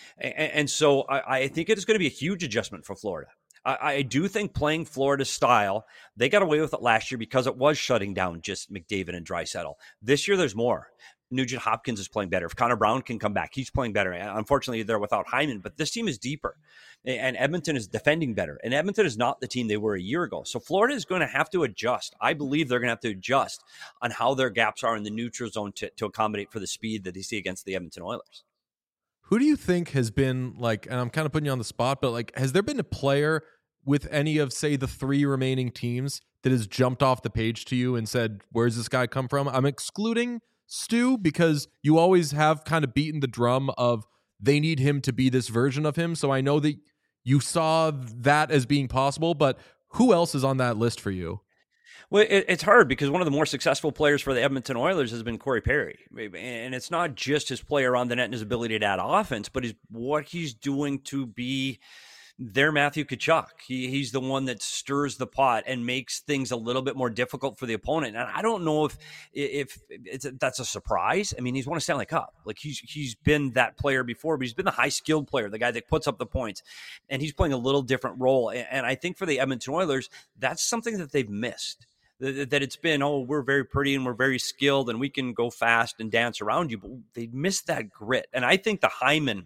And so I think it is going to be a huge adjustment for Florida. I do think playing Florida style, they got away with it last year because it was shutting down just McDavid and Draisaitl. This year, there's more. Nugent Hopkins is playing better. If Connor Brown can come back, he's playing better. Unfortunately, they're without Hyman, but this team is deeper. And Edmonton is defending better. And Edmonton is not the team they were a year ago. So Florida is going to have to adjust. I believe they're going to have to adjust on how their gaps are in the neutral zone to accommodate for the speed that they see against the Edmonton Oilers. Who do you think has been, like, and I'm kind of putting you on the spot, but like, has there been a player with any of, say, the 3 remaining teams that has jumped off the page to you and said, where's this guy come from? I'm excluding Stu, because you always have kind of beaten the drum of they need him to be this version of him. So I know that you saw that as being possible, but who else is on that list for you? Well, it's hard because one of the more successful players for the Edmonton Oilers has been Corey Perry. And it's not just his play around the net and his ability to add offense, but what he's doing to be their Matthew Tkachuk. He's the one that stirs the pot and makes things a little bit more difficult for the opponent. And I don't know if that's a surprise. I mean, he's won a Stanley Cup. Like he's been that player before, but he's been the high skilled player, the guy that puts up the points, and he's playing a little different role. And I think for the Edmonton Oilers, that's something that they've missed. That it's been, we're very pretty and we're very skilled and we can go fast and dance around you, but they missed that grit. And I think the Hyman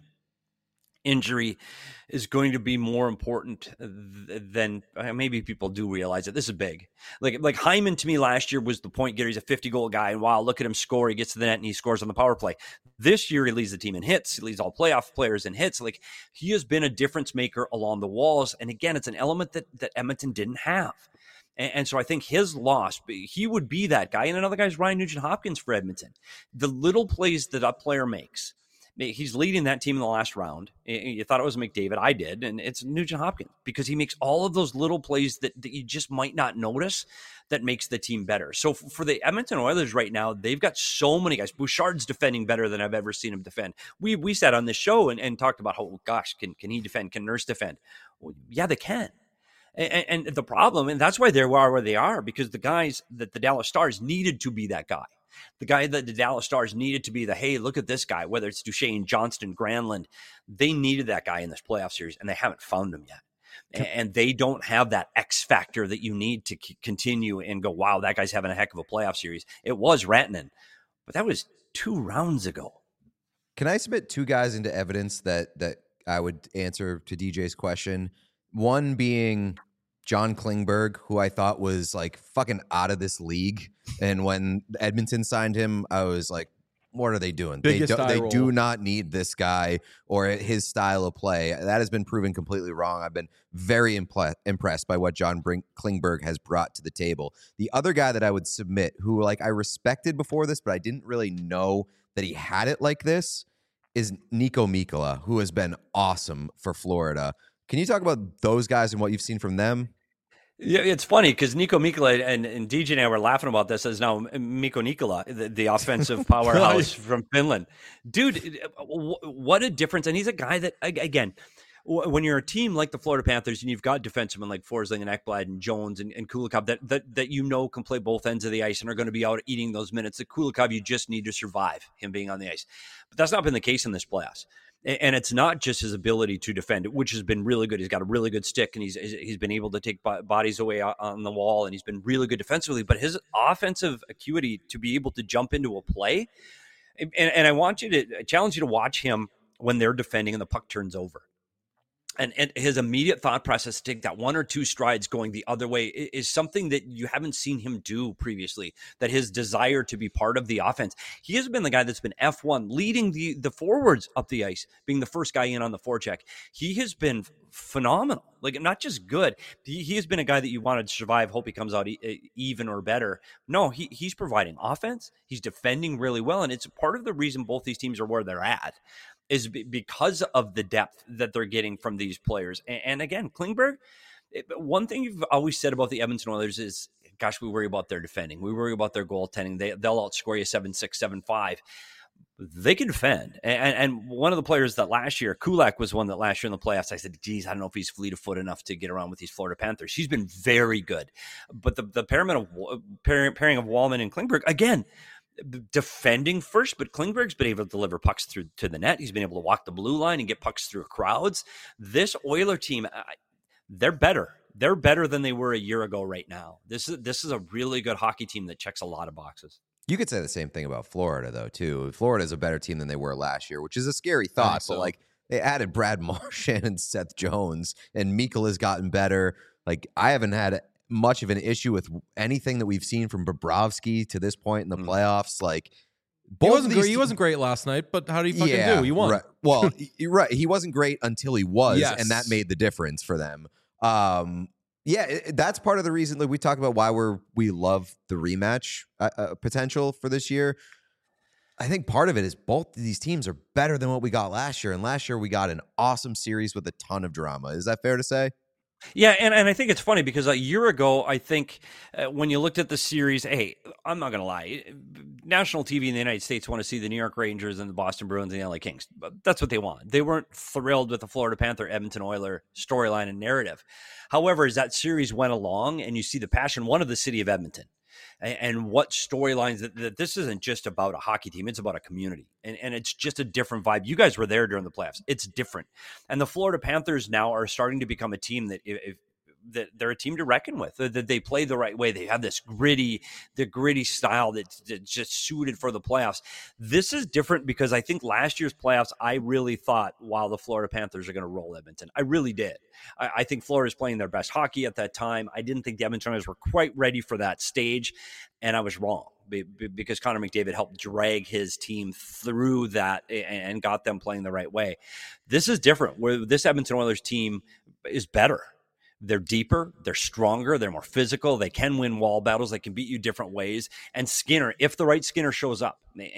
injury is going to be more important than maybe people do realize it. This is big. Like Hyman to me last year was the point getter. He's a 50-goal guy, and wow, look at him score. He gets to the net and he scores on the power play. This year he leads the team in hits. He leads all playoff players in hits. Like, he has been a difference maker along the walls. And again, it's an element that Edmonton didn't have. And so I think his loss, he would be that guy. And another guy is Ryan Nugent-Hopkins for Edmonton. The little plays that a player makes. He's leading that team in the last round. You thought it was McDavid. I did. And it's Nugent-Hopkins because he makes all of those little plays that you just might not notice that makes the team better. So for the Edmonton Oilers right now, they've got so many guys. Bouchard's defending better than I've ever seen him defend. We sat on this show and talked about, oh, gosh, can he defend? Can Nurse defend? Well, yeah, they can. And the problem, and that's why they are where they are, because the guys that the Dallas Stars needed to be that guy. The guy that the Dallas Stars needed to be hey, look at this guy, whether it's Duchesne, Johnston, Granlund, they needed that guy in this playoff series, and they haven't found him yet. And they don't have that X factor that you need to continue and go, wow, that guy's having a heck of a playoff series. It was Rantanen, but that was 2 rounds ago. Can I submit 2 guys into evidence that I would answer to DJ's question? One being John Klingberg, who I thought was like fucking out of this league. And when Edmonton signed him, I was like, what are they doing? They do not need this guy or his style of play. That has been proven completely wrong. I've been very impressed by what John Klingberg has brought to the table. The other guy that I would submit, who like I respected before this, but I didn't really know that he had it like this, is Niko Mikkola, who has been awesome for Florida. Can you talk about those guys and what you've seen from them? Yeah, it's funny because Niko Mikkola and DJ and I were laughing about this as now Mikko Nikkola, the offensive powerhouse from Finland. Dude, what a difference. And he's a guy that, again, when you're a team like the Florida Panthers and you've got defensemen like Forsling and Ekblad and Jones and Kulikov that can play both ends of the ice and are going to be out eating those minutes. The Kulikov, you just need to survive him being on the ice. But that's not been the case in this playoffs. And it's not just his ability to defend, which has been really good. He's got a really good stick, and he's been able to take bodies away on the wall, and he's been really good defensively. But his offensive acuity to be able to jump into a play, and I challenge you to watch him when they're defending and the puck turns over. And his immediate thought process to take that 1 or 2 strides going the other way is something that you haven't seen him do previously, that his desire to be part of the offense. He has been the guy that's been F1, leading the forwards up the ice, being the first guy in on the forecheck. He has been phenomenal, like not just good. He has been a guy that you wanted to survive, hope he comes out even or better. No, he's providing offense. He's defending really well. And it's part of the reason both these teams are where they're at, is because of the depth that they're getting from these players. And again, Klingberg, one thing you've always said about the Edmonton Oilers is, gosh, we worry about their defending. We worry about their goaltending. They'll outscore you 7-6, 7-5. They can defend. And one of the players that last year, Kulak was one that last year in the playoffs, I said, geez, I don't know if he's fleet of foot enough to get around with these Florida Panthers. He's been very good. But the pairing of Wallman and Klingberg, again, defending first, but Klingberg's been able to deliver pucks through to the net. He's been able to walk the blue line and get pucks through crowds. This Oiler team, they're better. They're better than they were a year ago right now. This is a really good hockey team that checks a lot of boxes. You could say the same thing about Florida, though, too. Florida is a better team than they were last year, which is a scary thought. So. But, like, they added Brad Marchand and Seth Jones, and Mikkel has gotten better. Like, I haven't had much of an issue with anything that we've seen from Bobrovsky to this point in the playoffs. Like, he wasn't great last night, but how did he fucking do? He won. Right. Well, you're right. He wasn't great until he was, and that made the difference for them. That's part of the reason that we talk about why we love the rematch potential for this year. I think part of it is both of these teams are better than what we got last year, and last year we got an awesome series with a ton of drama. Is that fair to say? Yeah, and I think it's funny because a year ago, I think when you looked at the series, hey, I'm not going to lie, national TV in the United States want to see the New York Rangers and the Boston Bruins and the LA Kings. That's what they want. They weren't thrilled with the Florida Panther, Edmonton Oiler storyline and narrative. However, as that series went along and you see the passion, one of the city of Edmonton, and what storylines that this isn't just about a hockey team, it's about a community, and it's just a different vibe. You guys were there during the playoffs. It's different. And the Florida Panthers now are starting to become a team that they're a team to reckon with, that they play the right way. They have this gritty style that's just suited for the playoffs. This is different because I think last year's playoffs, I really thought, wow, the Florida Panthers are going to roll Edmonton. I really did. I think Florida's playing their best hockey at that time. I didn't think the Edmonton Oilers were quite ready for that stage, and I was wrong because Connor McDavid helped drag his team through that and got them playing the right way. This is different, where this Edmonton Oilers team is better. They're deeper, they're stronger, they're more physical, they can win wall battles, they can beat you different ways. And Skinner, if the right Skinner shows up,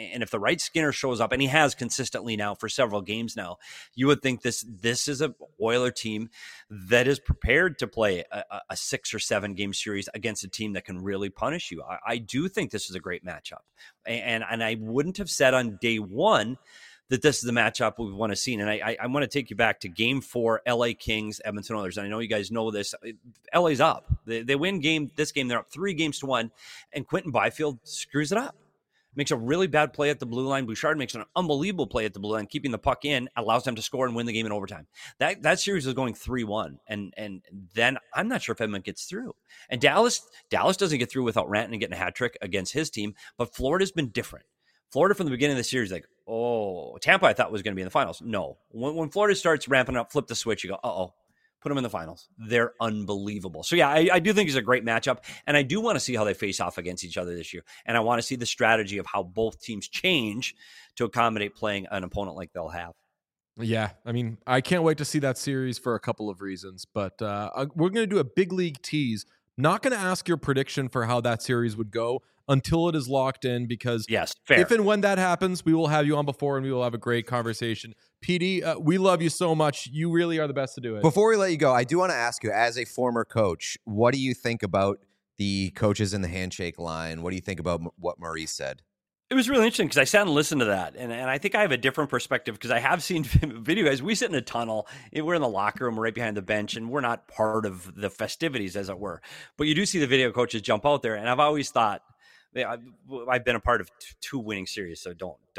and he has consistently now for several games now, you would think this is a Oiler team that is prepared to play a 6 or 7 game series against a team that can really punish you. I do think this is a great matchup. And I wouldn't have said on day one that this is the matchup we want to see. And I want to take you back to Game 4, LA Kings, Edmonton Oilers. And I know you guys know this. LA's up. They win this game. They're up 3-1, and Quentin Byfield screws it up. Makes a really bad play at the blue line. Bouchard makes an unbelievable play at the blue line, keeping the puck in, allows them to score and win the game in overtime. That series was going 3-1, and then I'm not sure if Edmonton gets through. And Dallas doesn't get through without Rantanen getting a hat trick against his team, but Florida's been different. Florida from the beginning of the series, like, oh, Tampa I thought was going to be in the finals. No. When Florida starts ramping up, flip the switch, you go, put them in the finals. They're unbelievable. So, yeah, I do think it's a great matchup, and I do want to see how they face off against each other this year, and I want to see the strategy of how both teams change to accommodate playing an opponent like they'll have. Yeah, I mean, I can't wait to see that series for a couple of reasons, but we're going to do a big league tease. Not going to ask your prediction for how that series would go until it is locked in, because if and when that happens, we will have you on before and we will have a great conversation. PD, we love you so much. You really are the best to do it. Before we let you go, I do want to ask you, as a former coach, what do you think about the coaches in the handshake line? What do you think about what Maurice said? It was really interesting because I sat and listened to that, and I think I have a different perspective because I have seen video guys. We sit in a tunnel, we're in the locker room, we're right behind the bench, and we're not part of the festivities, as it were. But you do see the video coaches jump out there, and I've always thought, I've been a part of 2 winning series, so don't go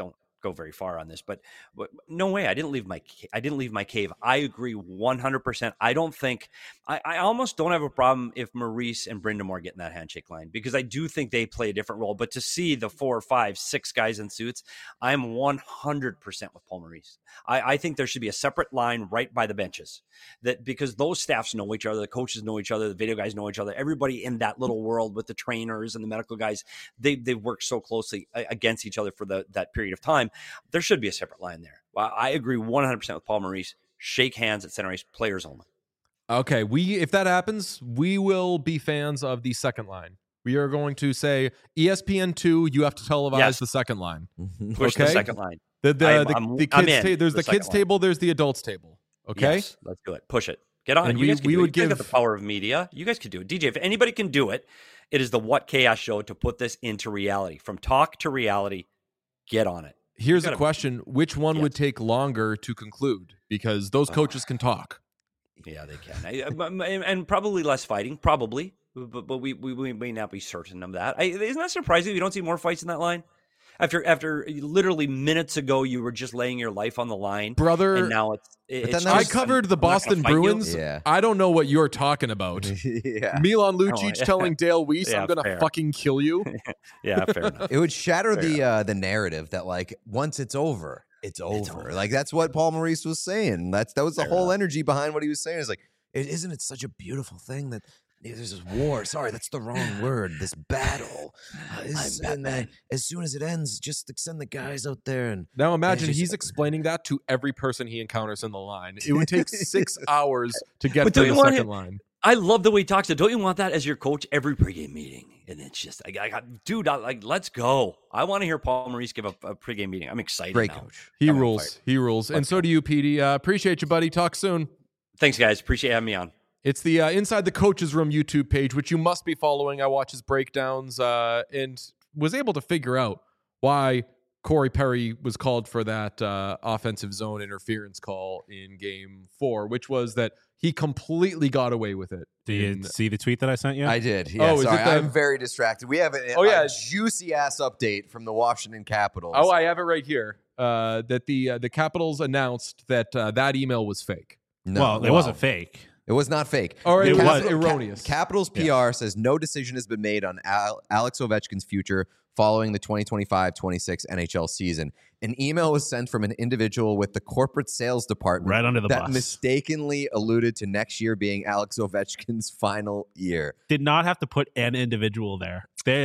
go very far on this, but no way. I didn't leave my cave. I agree 100%. I don't think I almost don't have a problem if Maurice and Brind'Amour get in that handshake line, because I do think they play a different role. But to see the 4, 5, 6 guys in suits, I'm 100% with Paul Maurice. I think there should be a separate line right by the benches, that because those staffs know each other, the coaches know each other, the video guys know each other, everybody in that little world with the trainers and the medical guys, they work so closely against each other for that period of time. There should be a separate line there. I agree 100% with Paul Maurice. Shake hands at center ice, players only. Okay, if that happens, we will be fans of the second line. We are going to say ESPN2, you have to televise the second line. Push the second line. The kids there's the kids table, there's the adults table. Okay? Yes, let's do it. Push it. Get on it. You would give the power of media. You guys could do it. DJ, if anybody can do it, it is the What Chaos Show to put this into reality. From talk to reality, get on it. Here's a question. Which one would take longer to conclude? Because those coaches can talk. Yeah, they can. And probably less fighting, probably. But we may not be certain of that. Isn't that surprising you don't see more fights in that line? After literally minutes ago, you were just laying your life on the line, brother. And now it's I covered the Boston Bruins. Yeah. I don't know what you're talking about. Milan Lucic telling Dale Weiss, "I'm gonna fucking kill you." Yeah, fair enough. It would shatter the narrative that like once it's over, it's over. Like that's what Paul Maurice was saying. That was the whole energy behind what he was saying. It's like, isn't it such a beautiful thing that there's this war? Sorry, that's the wrong word. This battle. And then as soon as it ends, just send the guys out there. And now imagine he's explaining that to every person he encounters in the line. It would take 6 hours to get through the second line. I love the way he talks. Don't you want that as your coach every pregame meeting? And it's just, dude, let's go. I want to hear Paul Maurice give a pregame meeting. I'm excited. Great now. coach. He rules. He rules. And so do you, Petey. Appreciate you, buddy. Talk soon. Thanks, guys. Appreciate having me on. It's the Inside the Coaches Room YouTube page, which you must be following. I watch his breakdowns and was able to figure out why Corey Perry was called for that offensive zone interference call in Game 4, which was that he completely got away with it. Did you see the tweet that I sent you? I did. Yeah, sorry. I'm very distracted. We have a juicy-ass update from the Washington Capitals. Oh, I have it right here. That the Capitals announced that that email was fake. No, it wasn't fake. It was not fake. Or it was erroneous. Capitals PR says no decision has been made on Alex Ovechkin's future following the 2025-26 NHL season. An email was sent from an individual with the corporate sales department right under the that bus. Mistakenly alluded to next year being Alex Ovechkin's final year. Did not have to put an individual there.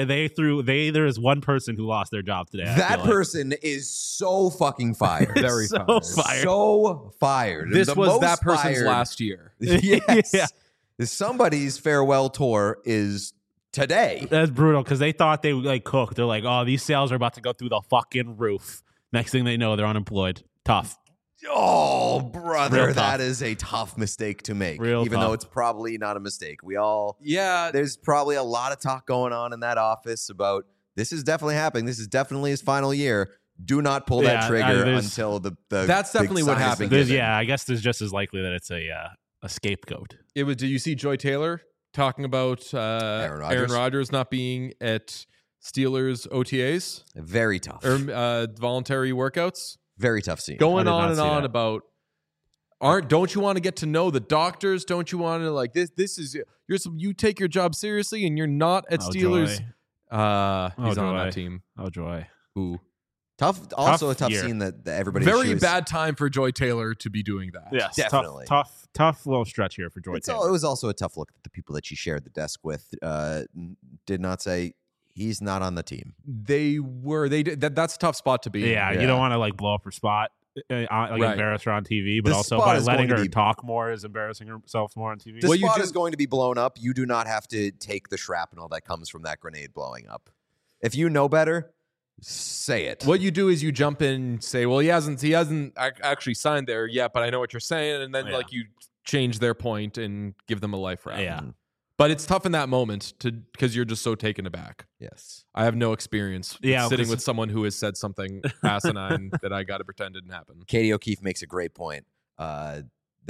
There is one person who lost their job today. That person is so fucking fired. Very fired. So fired. This was that person's last year. Yes. Yeah. Somebody's farewell tour is today. That's brutal because they thought they would cook. They're like, oh, these sales are about to go through the fucking roof. Next thing they know, they're unemployed. Tough. Oh, brother, that is a tough mistake to make. Even though it's probably not a mistake. There's probably a lot of talk going on in that office about this is definitely happening. This is definitely his final year. Do not pull that trigger until the that's definitely what happened. I guess there's just as likely that it's a scapegoat. Do you see Joy Taylor talking about Aaron Rodgers not being at Steelers OTAs? Very tough. Or voluntary workouts? Very tough scene. Going on and on about don't you want to get to know the doctors? Don't you want to this is you take your job seriously and you're not at Steelers. Joy. He's on that team. Oh, Joy. Ooh. Tough scene that everybody. Very bad time for Joy Taylor to be doing that. Yes, definitely. Tough little stretch here for Joy Taylor. It was also a tough look at the people that she shared the desk with. Did not say he's not on the team. They did. That's a tough spot to be. Yeah, you don't want to blow up her spot, embarrass her on TV, but also by letting her talk more is embarrassing herself more on TV. The spot is going to be blown up. You do not have to take the shrapnel that comes from that grenade blowing up. If you know better, say it. What you do is you jump in and say, well, he hasn't actually signed there yet, but I know what you're saying. And then you change their point and give them a life round. Yeah. But it's tough in that moment because you're just so taken aback. Yes. I have no experience sitting with someone who has said something asinine that I got to pretend didn't happen. Katie O'Keefe makes a great point. That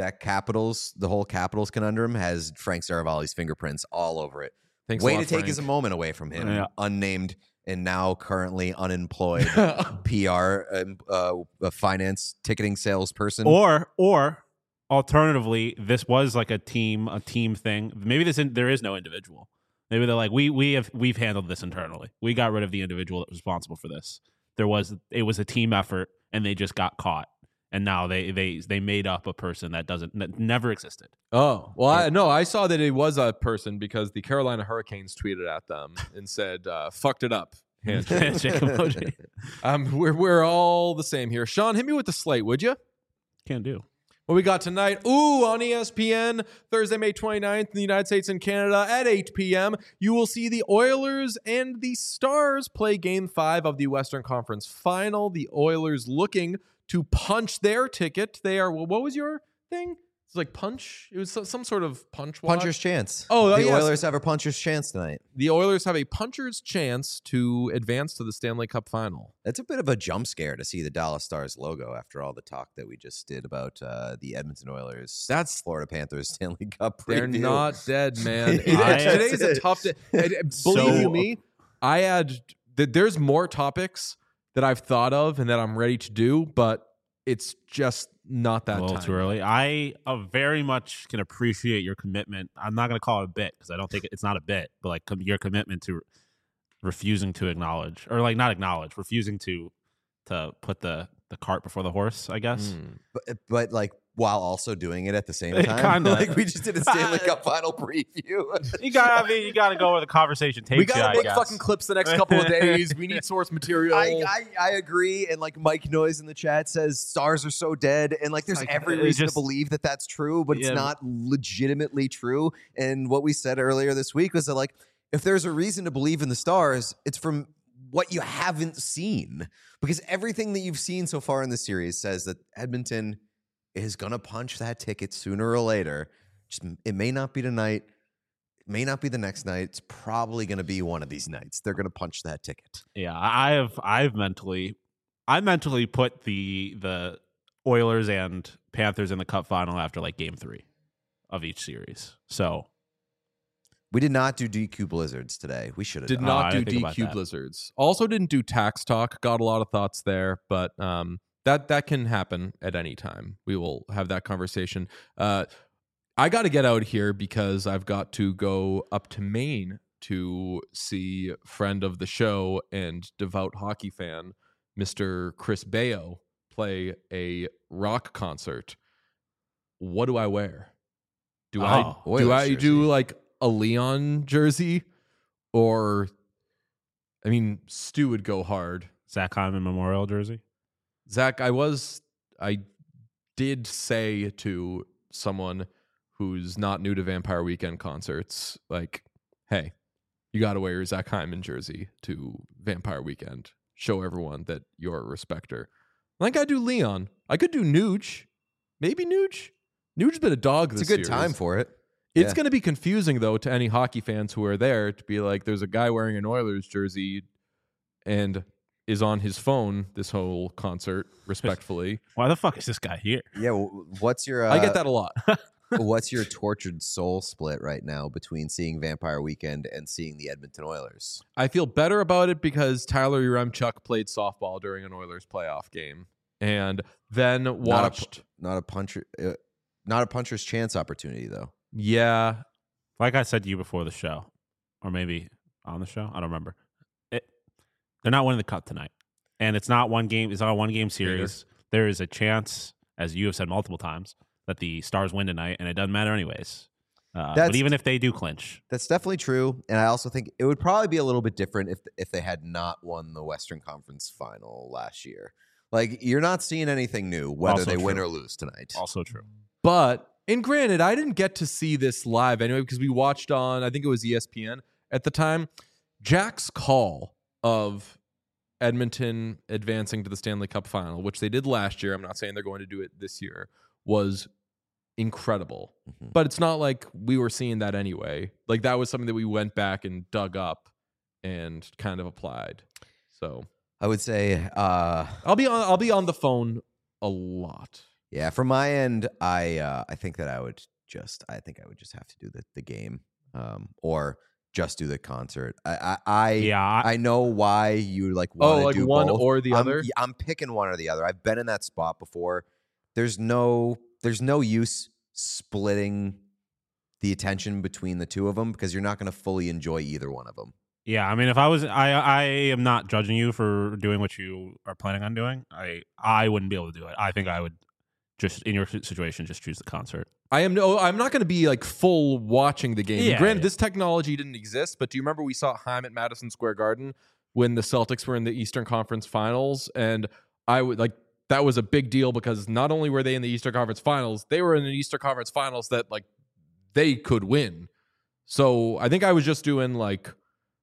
the whole Capitals conundrum has Frank Saravalli's fingerprints all over it. Thanks Way a lot, to take Frank. his moment away from him. Yeah. Unnamed and now currently unemployed PR finance ticketing salesperson. Or alternatively, this was like a team thing. Maybe there is no individual. Maybe they're like, we've handled this internally. We got rid of the individual that was responsible for this. It was a team effort, and they just got caught. And now they made up a person that never existed. Oh, well, I saw that it was a person because the Carolina Hurricanes tweeted at them and said, fucked it up. Handshake emoji. We're all the same here. Sean, hit me with the slate, would you? Can do. What we got tonight? On ESPN, Thursday, May 29th in the United States and Canada at 8 p.m., you will see the Oilers and the Stars play Game 5 of the Western Conference Final. The Oilers looking to punch their ticket. They are, what was your thing? It's like punch. It was some sort of punch watch. Puncher's chance. Oh, the yes. Oilers have a puncher's chance tonight. The Oilers have a puncher's chance to advance to the Stanley Cup Final. That's a bit of a jump scare to see the Dallas Stars logo after all the talk that we just did about the Edmonton Oilers. That's Florida Panthers Stanley Cup preview. They're not dead, man. Today's a tough day. Believe you me, there's more topics that I've thought of and that I'm ready to do, but it's just not that a little time. Too early. I very much can appreciate your commitment. I'm not going to call it a bit because I don't think it's not a bit, but like your commitment to refusing to acknowledge, or like not acknowledge, refusing to put the cart before the horse, I guess. But like while also doing it at the same time, Kinda. Like we just did a Stanley Cup Final preview. You got to go where the conversation takes you. We got to make fucking clips the next couple of days. We need source material. I agree, and like Mike Noyes in the chat says, Stars are so dead, and like there's every reason to believe that that's true, but it's not legitimately true. And what we said earlier this week was that like if there's a reason to believe in the Stars, it's from what you haven't seen, because everything that you've seen so far in the series says that Edmonton is going to punch that ticket sooner or later. It may not be tonight. It may not be the next night. It's probably going to be one of these nights. They're going to punch that ticket. Yeah, I mentally put the Oilers and Panthers in the Cup Final after like Game 3 of each series. So we did not do DQ Blizzards today. We should have did not do DQ Blizzards. Also didn't do tax talk. Got a lot of thoughts there, but that can happen at any time. We will have that conversation. I got to get out here because I've got to go up to Maine to see friend of the show and devout hockey fan, Mr. Chris Baio, play a rock concert. What do I wear? Do I do like a Leon jersey, or I mean, Stu would go hard. Zach Hyman Memorial jersey. Zach, I did say to someone who's not new to Vampire Weekend concerts, like, hey, you got to wear your Zach Hyman jersey to Vampire Weekend. Show everyone that you're a respecter. Like I do Leon. I could do Nuge. Maybe Nuge. Nuge's been a dog this year. It's a good time for it. It's going to be confusing, though, to any hockey fans who are there to be like, there's a guy wearing an Oilers jersey and is on his phone this whole concert, respectfully. Why the fuck is this guy here? Yeah, what's your... I get that a lot. What's your tortured soul split right now between seeing Vampire Weekend and seeing the Edmonton Oilers? I feel better about it because Tyler Yaremchuk played softball during an Oilers playoff game and then watched... Not a puncher's chance opportunity, though. Yeah. Like I said to you before the show, or maybe on the show, I don't remember. They're not winning the cup tonight. And it's not one game. It's not a one-game series. There is a chance, as you have said multiple times, that the Stars win tonight, and it doesn't matter anyways. But even if they do clinch. That's definitely true. And I also think it would probably be a little bit different if they had not won the Western Conference Final last year. Like, you're not seeing anything new, whether Also they true. win or lose tonight. Also true. But, and granted, I didn't get to see this live anyway because we watched on, I think it was ESPN at the time, Jack's call of Edmonton advancing to the Stanley Cup Final, which they did last year. I'm not saying they're going to do it this year, was incredible. Mm-hmm. But it's not like we were seeing that anyway. Like that was something that we went back and dug up and kind of applied. So I would say I'll be on the phone a lot. Yeah, from my end, I think that I would just have to do the game, or just do the concert. I know why you like want to do one both. or the other. I'm picking one or the other. I've been in that spot before. There's no use splitting the attention between the two of them because you're not going to fully enjoy either one of them. Yeah, I mean, if I was, I am not judging you for doing what you are planning on doing. I wouldn't be able to do it. I think I would just, in your situation, just choose the concert. I'm not going to be like full watching the game. Granted, this technology didn't exist, but do you remember we saw Haim at Madison Square Garden when the Celtics were in the Eastern Conference Finals? And I would like, that was a big deal because not only were they in the Eastern Conference Finals, they were in the Eastern Conference Finals that like they could win. So I think I was just doing like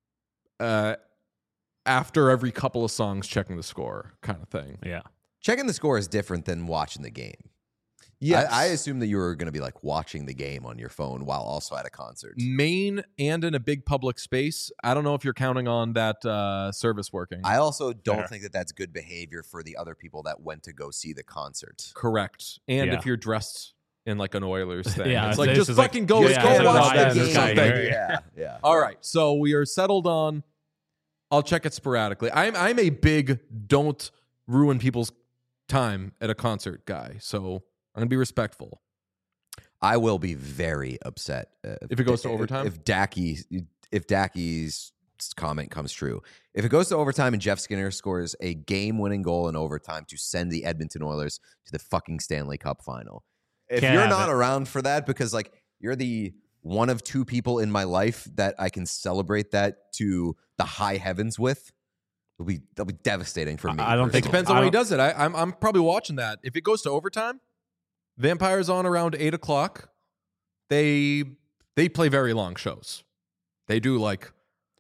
after every couple of songs checking the score kind of thing. Yeah. Checking the score is different than watching the game. Yes. I assume that you were going to be like watching the game on your phone while also at a concert. Main and in a big public space. I don't know if you're counting on that service working. I also don't think that that's good behavior for the other people that went to go see the concert. Correct. And if you're dressed in like an Oilers thing. Yeah, it's like, just fucking like, go watch the game. Something. Yeah. All right. So we are settled on, I'll check it sporadically. I'm a big don't ruin people's time at a concert guy. So I'm going to be respectful. I will be very upset if it goes to overtime. If Dackey's comment comes true. If it goes to overtime and Jeff Skinner scores a game-winning goal in overtime to send the Edmonton Oilers to the fucking Stanley Cup final. If you're not around for that because like you're the one of two people in my life that I can celebrate that to the high heavens with, that'll be devastating for me. I don't think it depends on when he does it. I'm probably watching that. If it goes to overtime, Vampire's on around 8:00. They play very long shows. They do like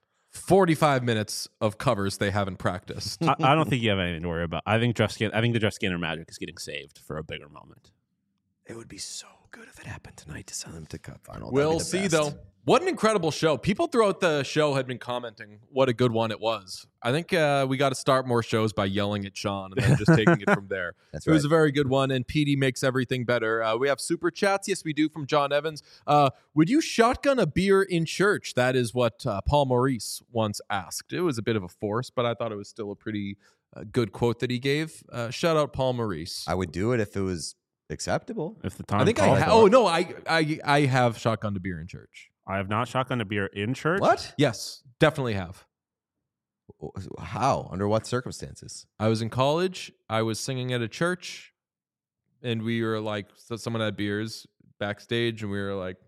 45 minutes of covers they haven't practiced. I don't think you have anything to worry about. I think the Jeff Skinner magic is getting saved for a bigger moment. It would be so good if it happened tonight to send them to Cup final. We'll see, though. What an incredible show. People throughout the show had been commenting what a good one it was. I think we got to start more shows by yelling at Sean and then just taking it from there. That's right. It was a very good one, and PD makes everything better. We have super chats. Yes, we do, from John Evans. Would you shotgun a beer in church? That is what Paul Maurice once asked. It was a bit of a force, but I thought it was still a pretty good quote that he gave. Shout out Paul Maurice. I would do it if it was acceptable. If the time I think I have. Oh, no, I have shotgunned a beer in church. I have not shotgunned a beer in church. What? Yes, definitely have. How? Under what circumstances? I was in college. I was singing at a church, and we were like, so someone had beers backstage, and we were like,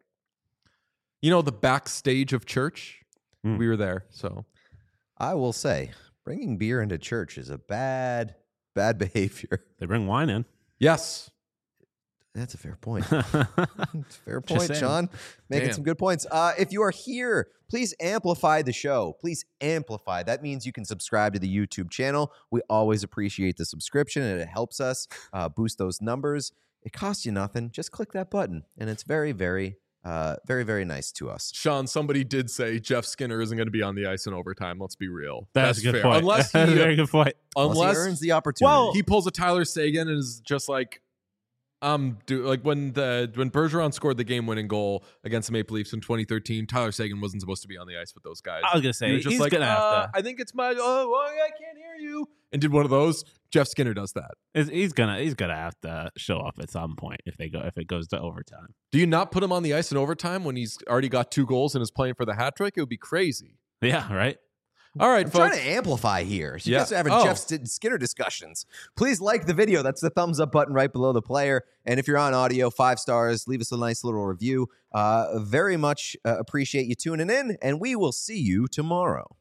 the backstage of church. We were there. So I will say, bringing beer into church is a bad behavior. They bring wine in. Yes. That's a fair point. It's a fair point, Sean. Making some good points. If you are here, please amplify the show. Please amplify. That means you can subscribe to the YouTube channel. We always appreciate the subscription, and it helps us boost those numbers. It costs you nothing. Just click that button, and it's very, very, very, very nice to us. Sean, somebody did say Jeff Skinner isn't going to be on the ice in overtime. Let's be real. That's a good fair. point. Unless That's a very good point. Unless he earns the opportunity. He pulls a Tyler Seguin and is just like, like when Bergeron scored the game-winning goal against the Maple Leafs in 2013, Tyler Seguin wasn't supposed to be on the ice with those guys. I was gonna say he's like, gonna have to. I think it's my. I can't hear you. And did one of those. Jeff Skinner does that. He's gonna have to show up at some point if it goes to overtime. Do you not put him on the ice in overtime when he's already got 2 goals and is playing for the hat trick? It would be crazy. Yeah, right. All right, I'm folks. trying to amplify here. So you guys are having Jeff Skinner discussions. Please like the video. That's the thumbs up button right below the player. And if you're on audio, 5 stars, leave us a nice little review. Very much appreciate you tuning in, and we will see you tomorrow.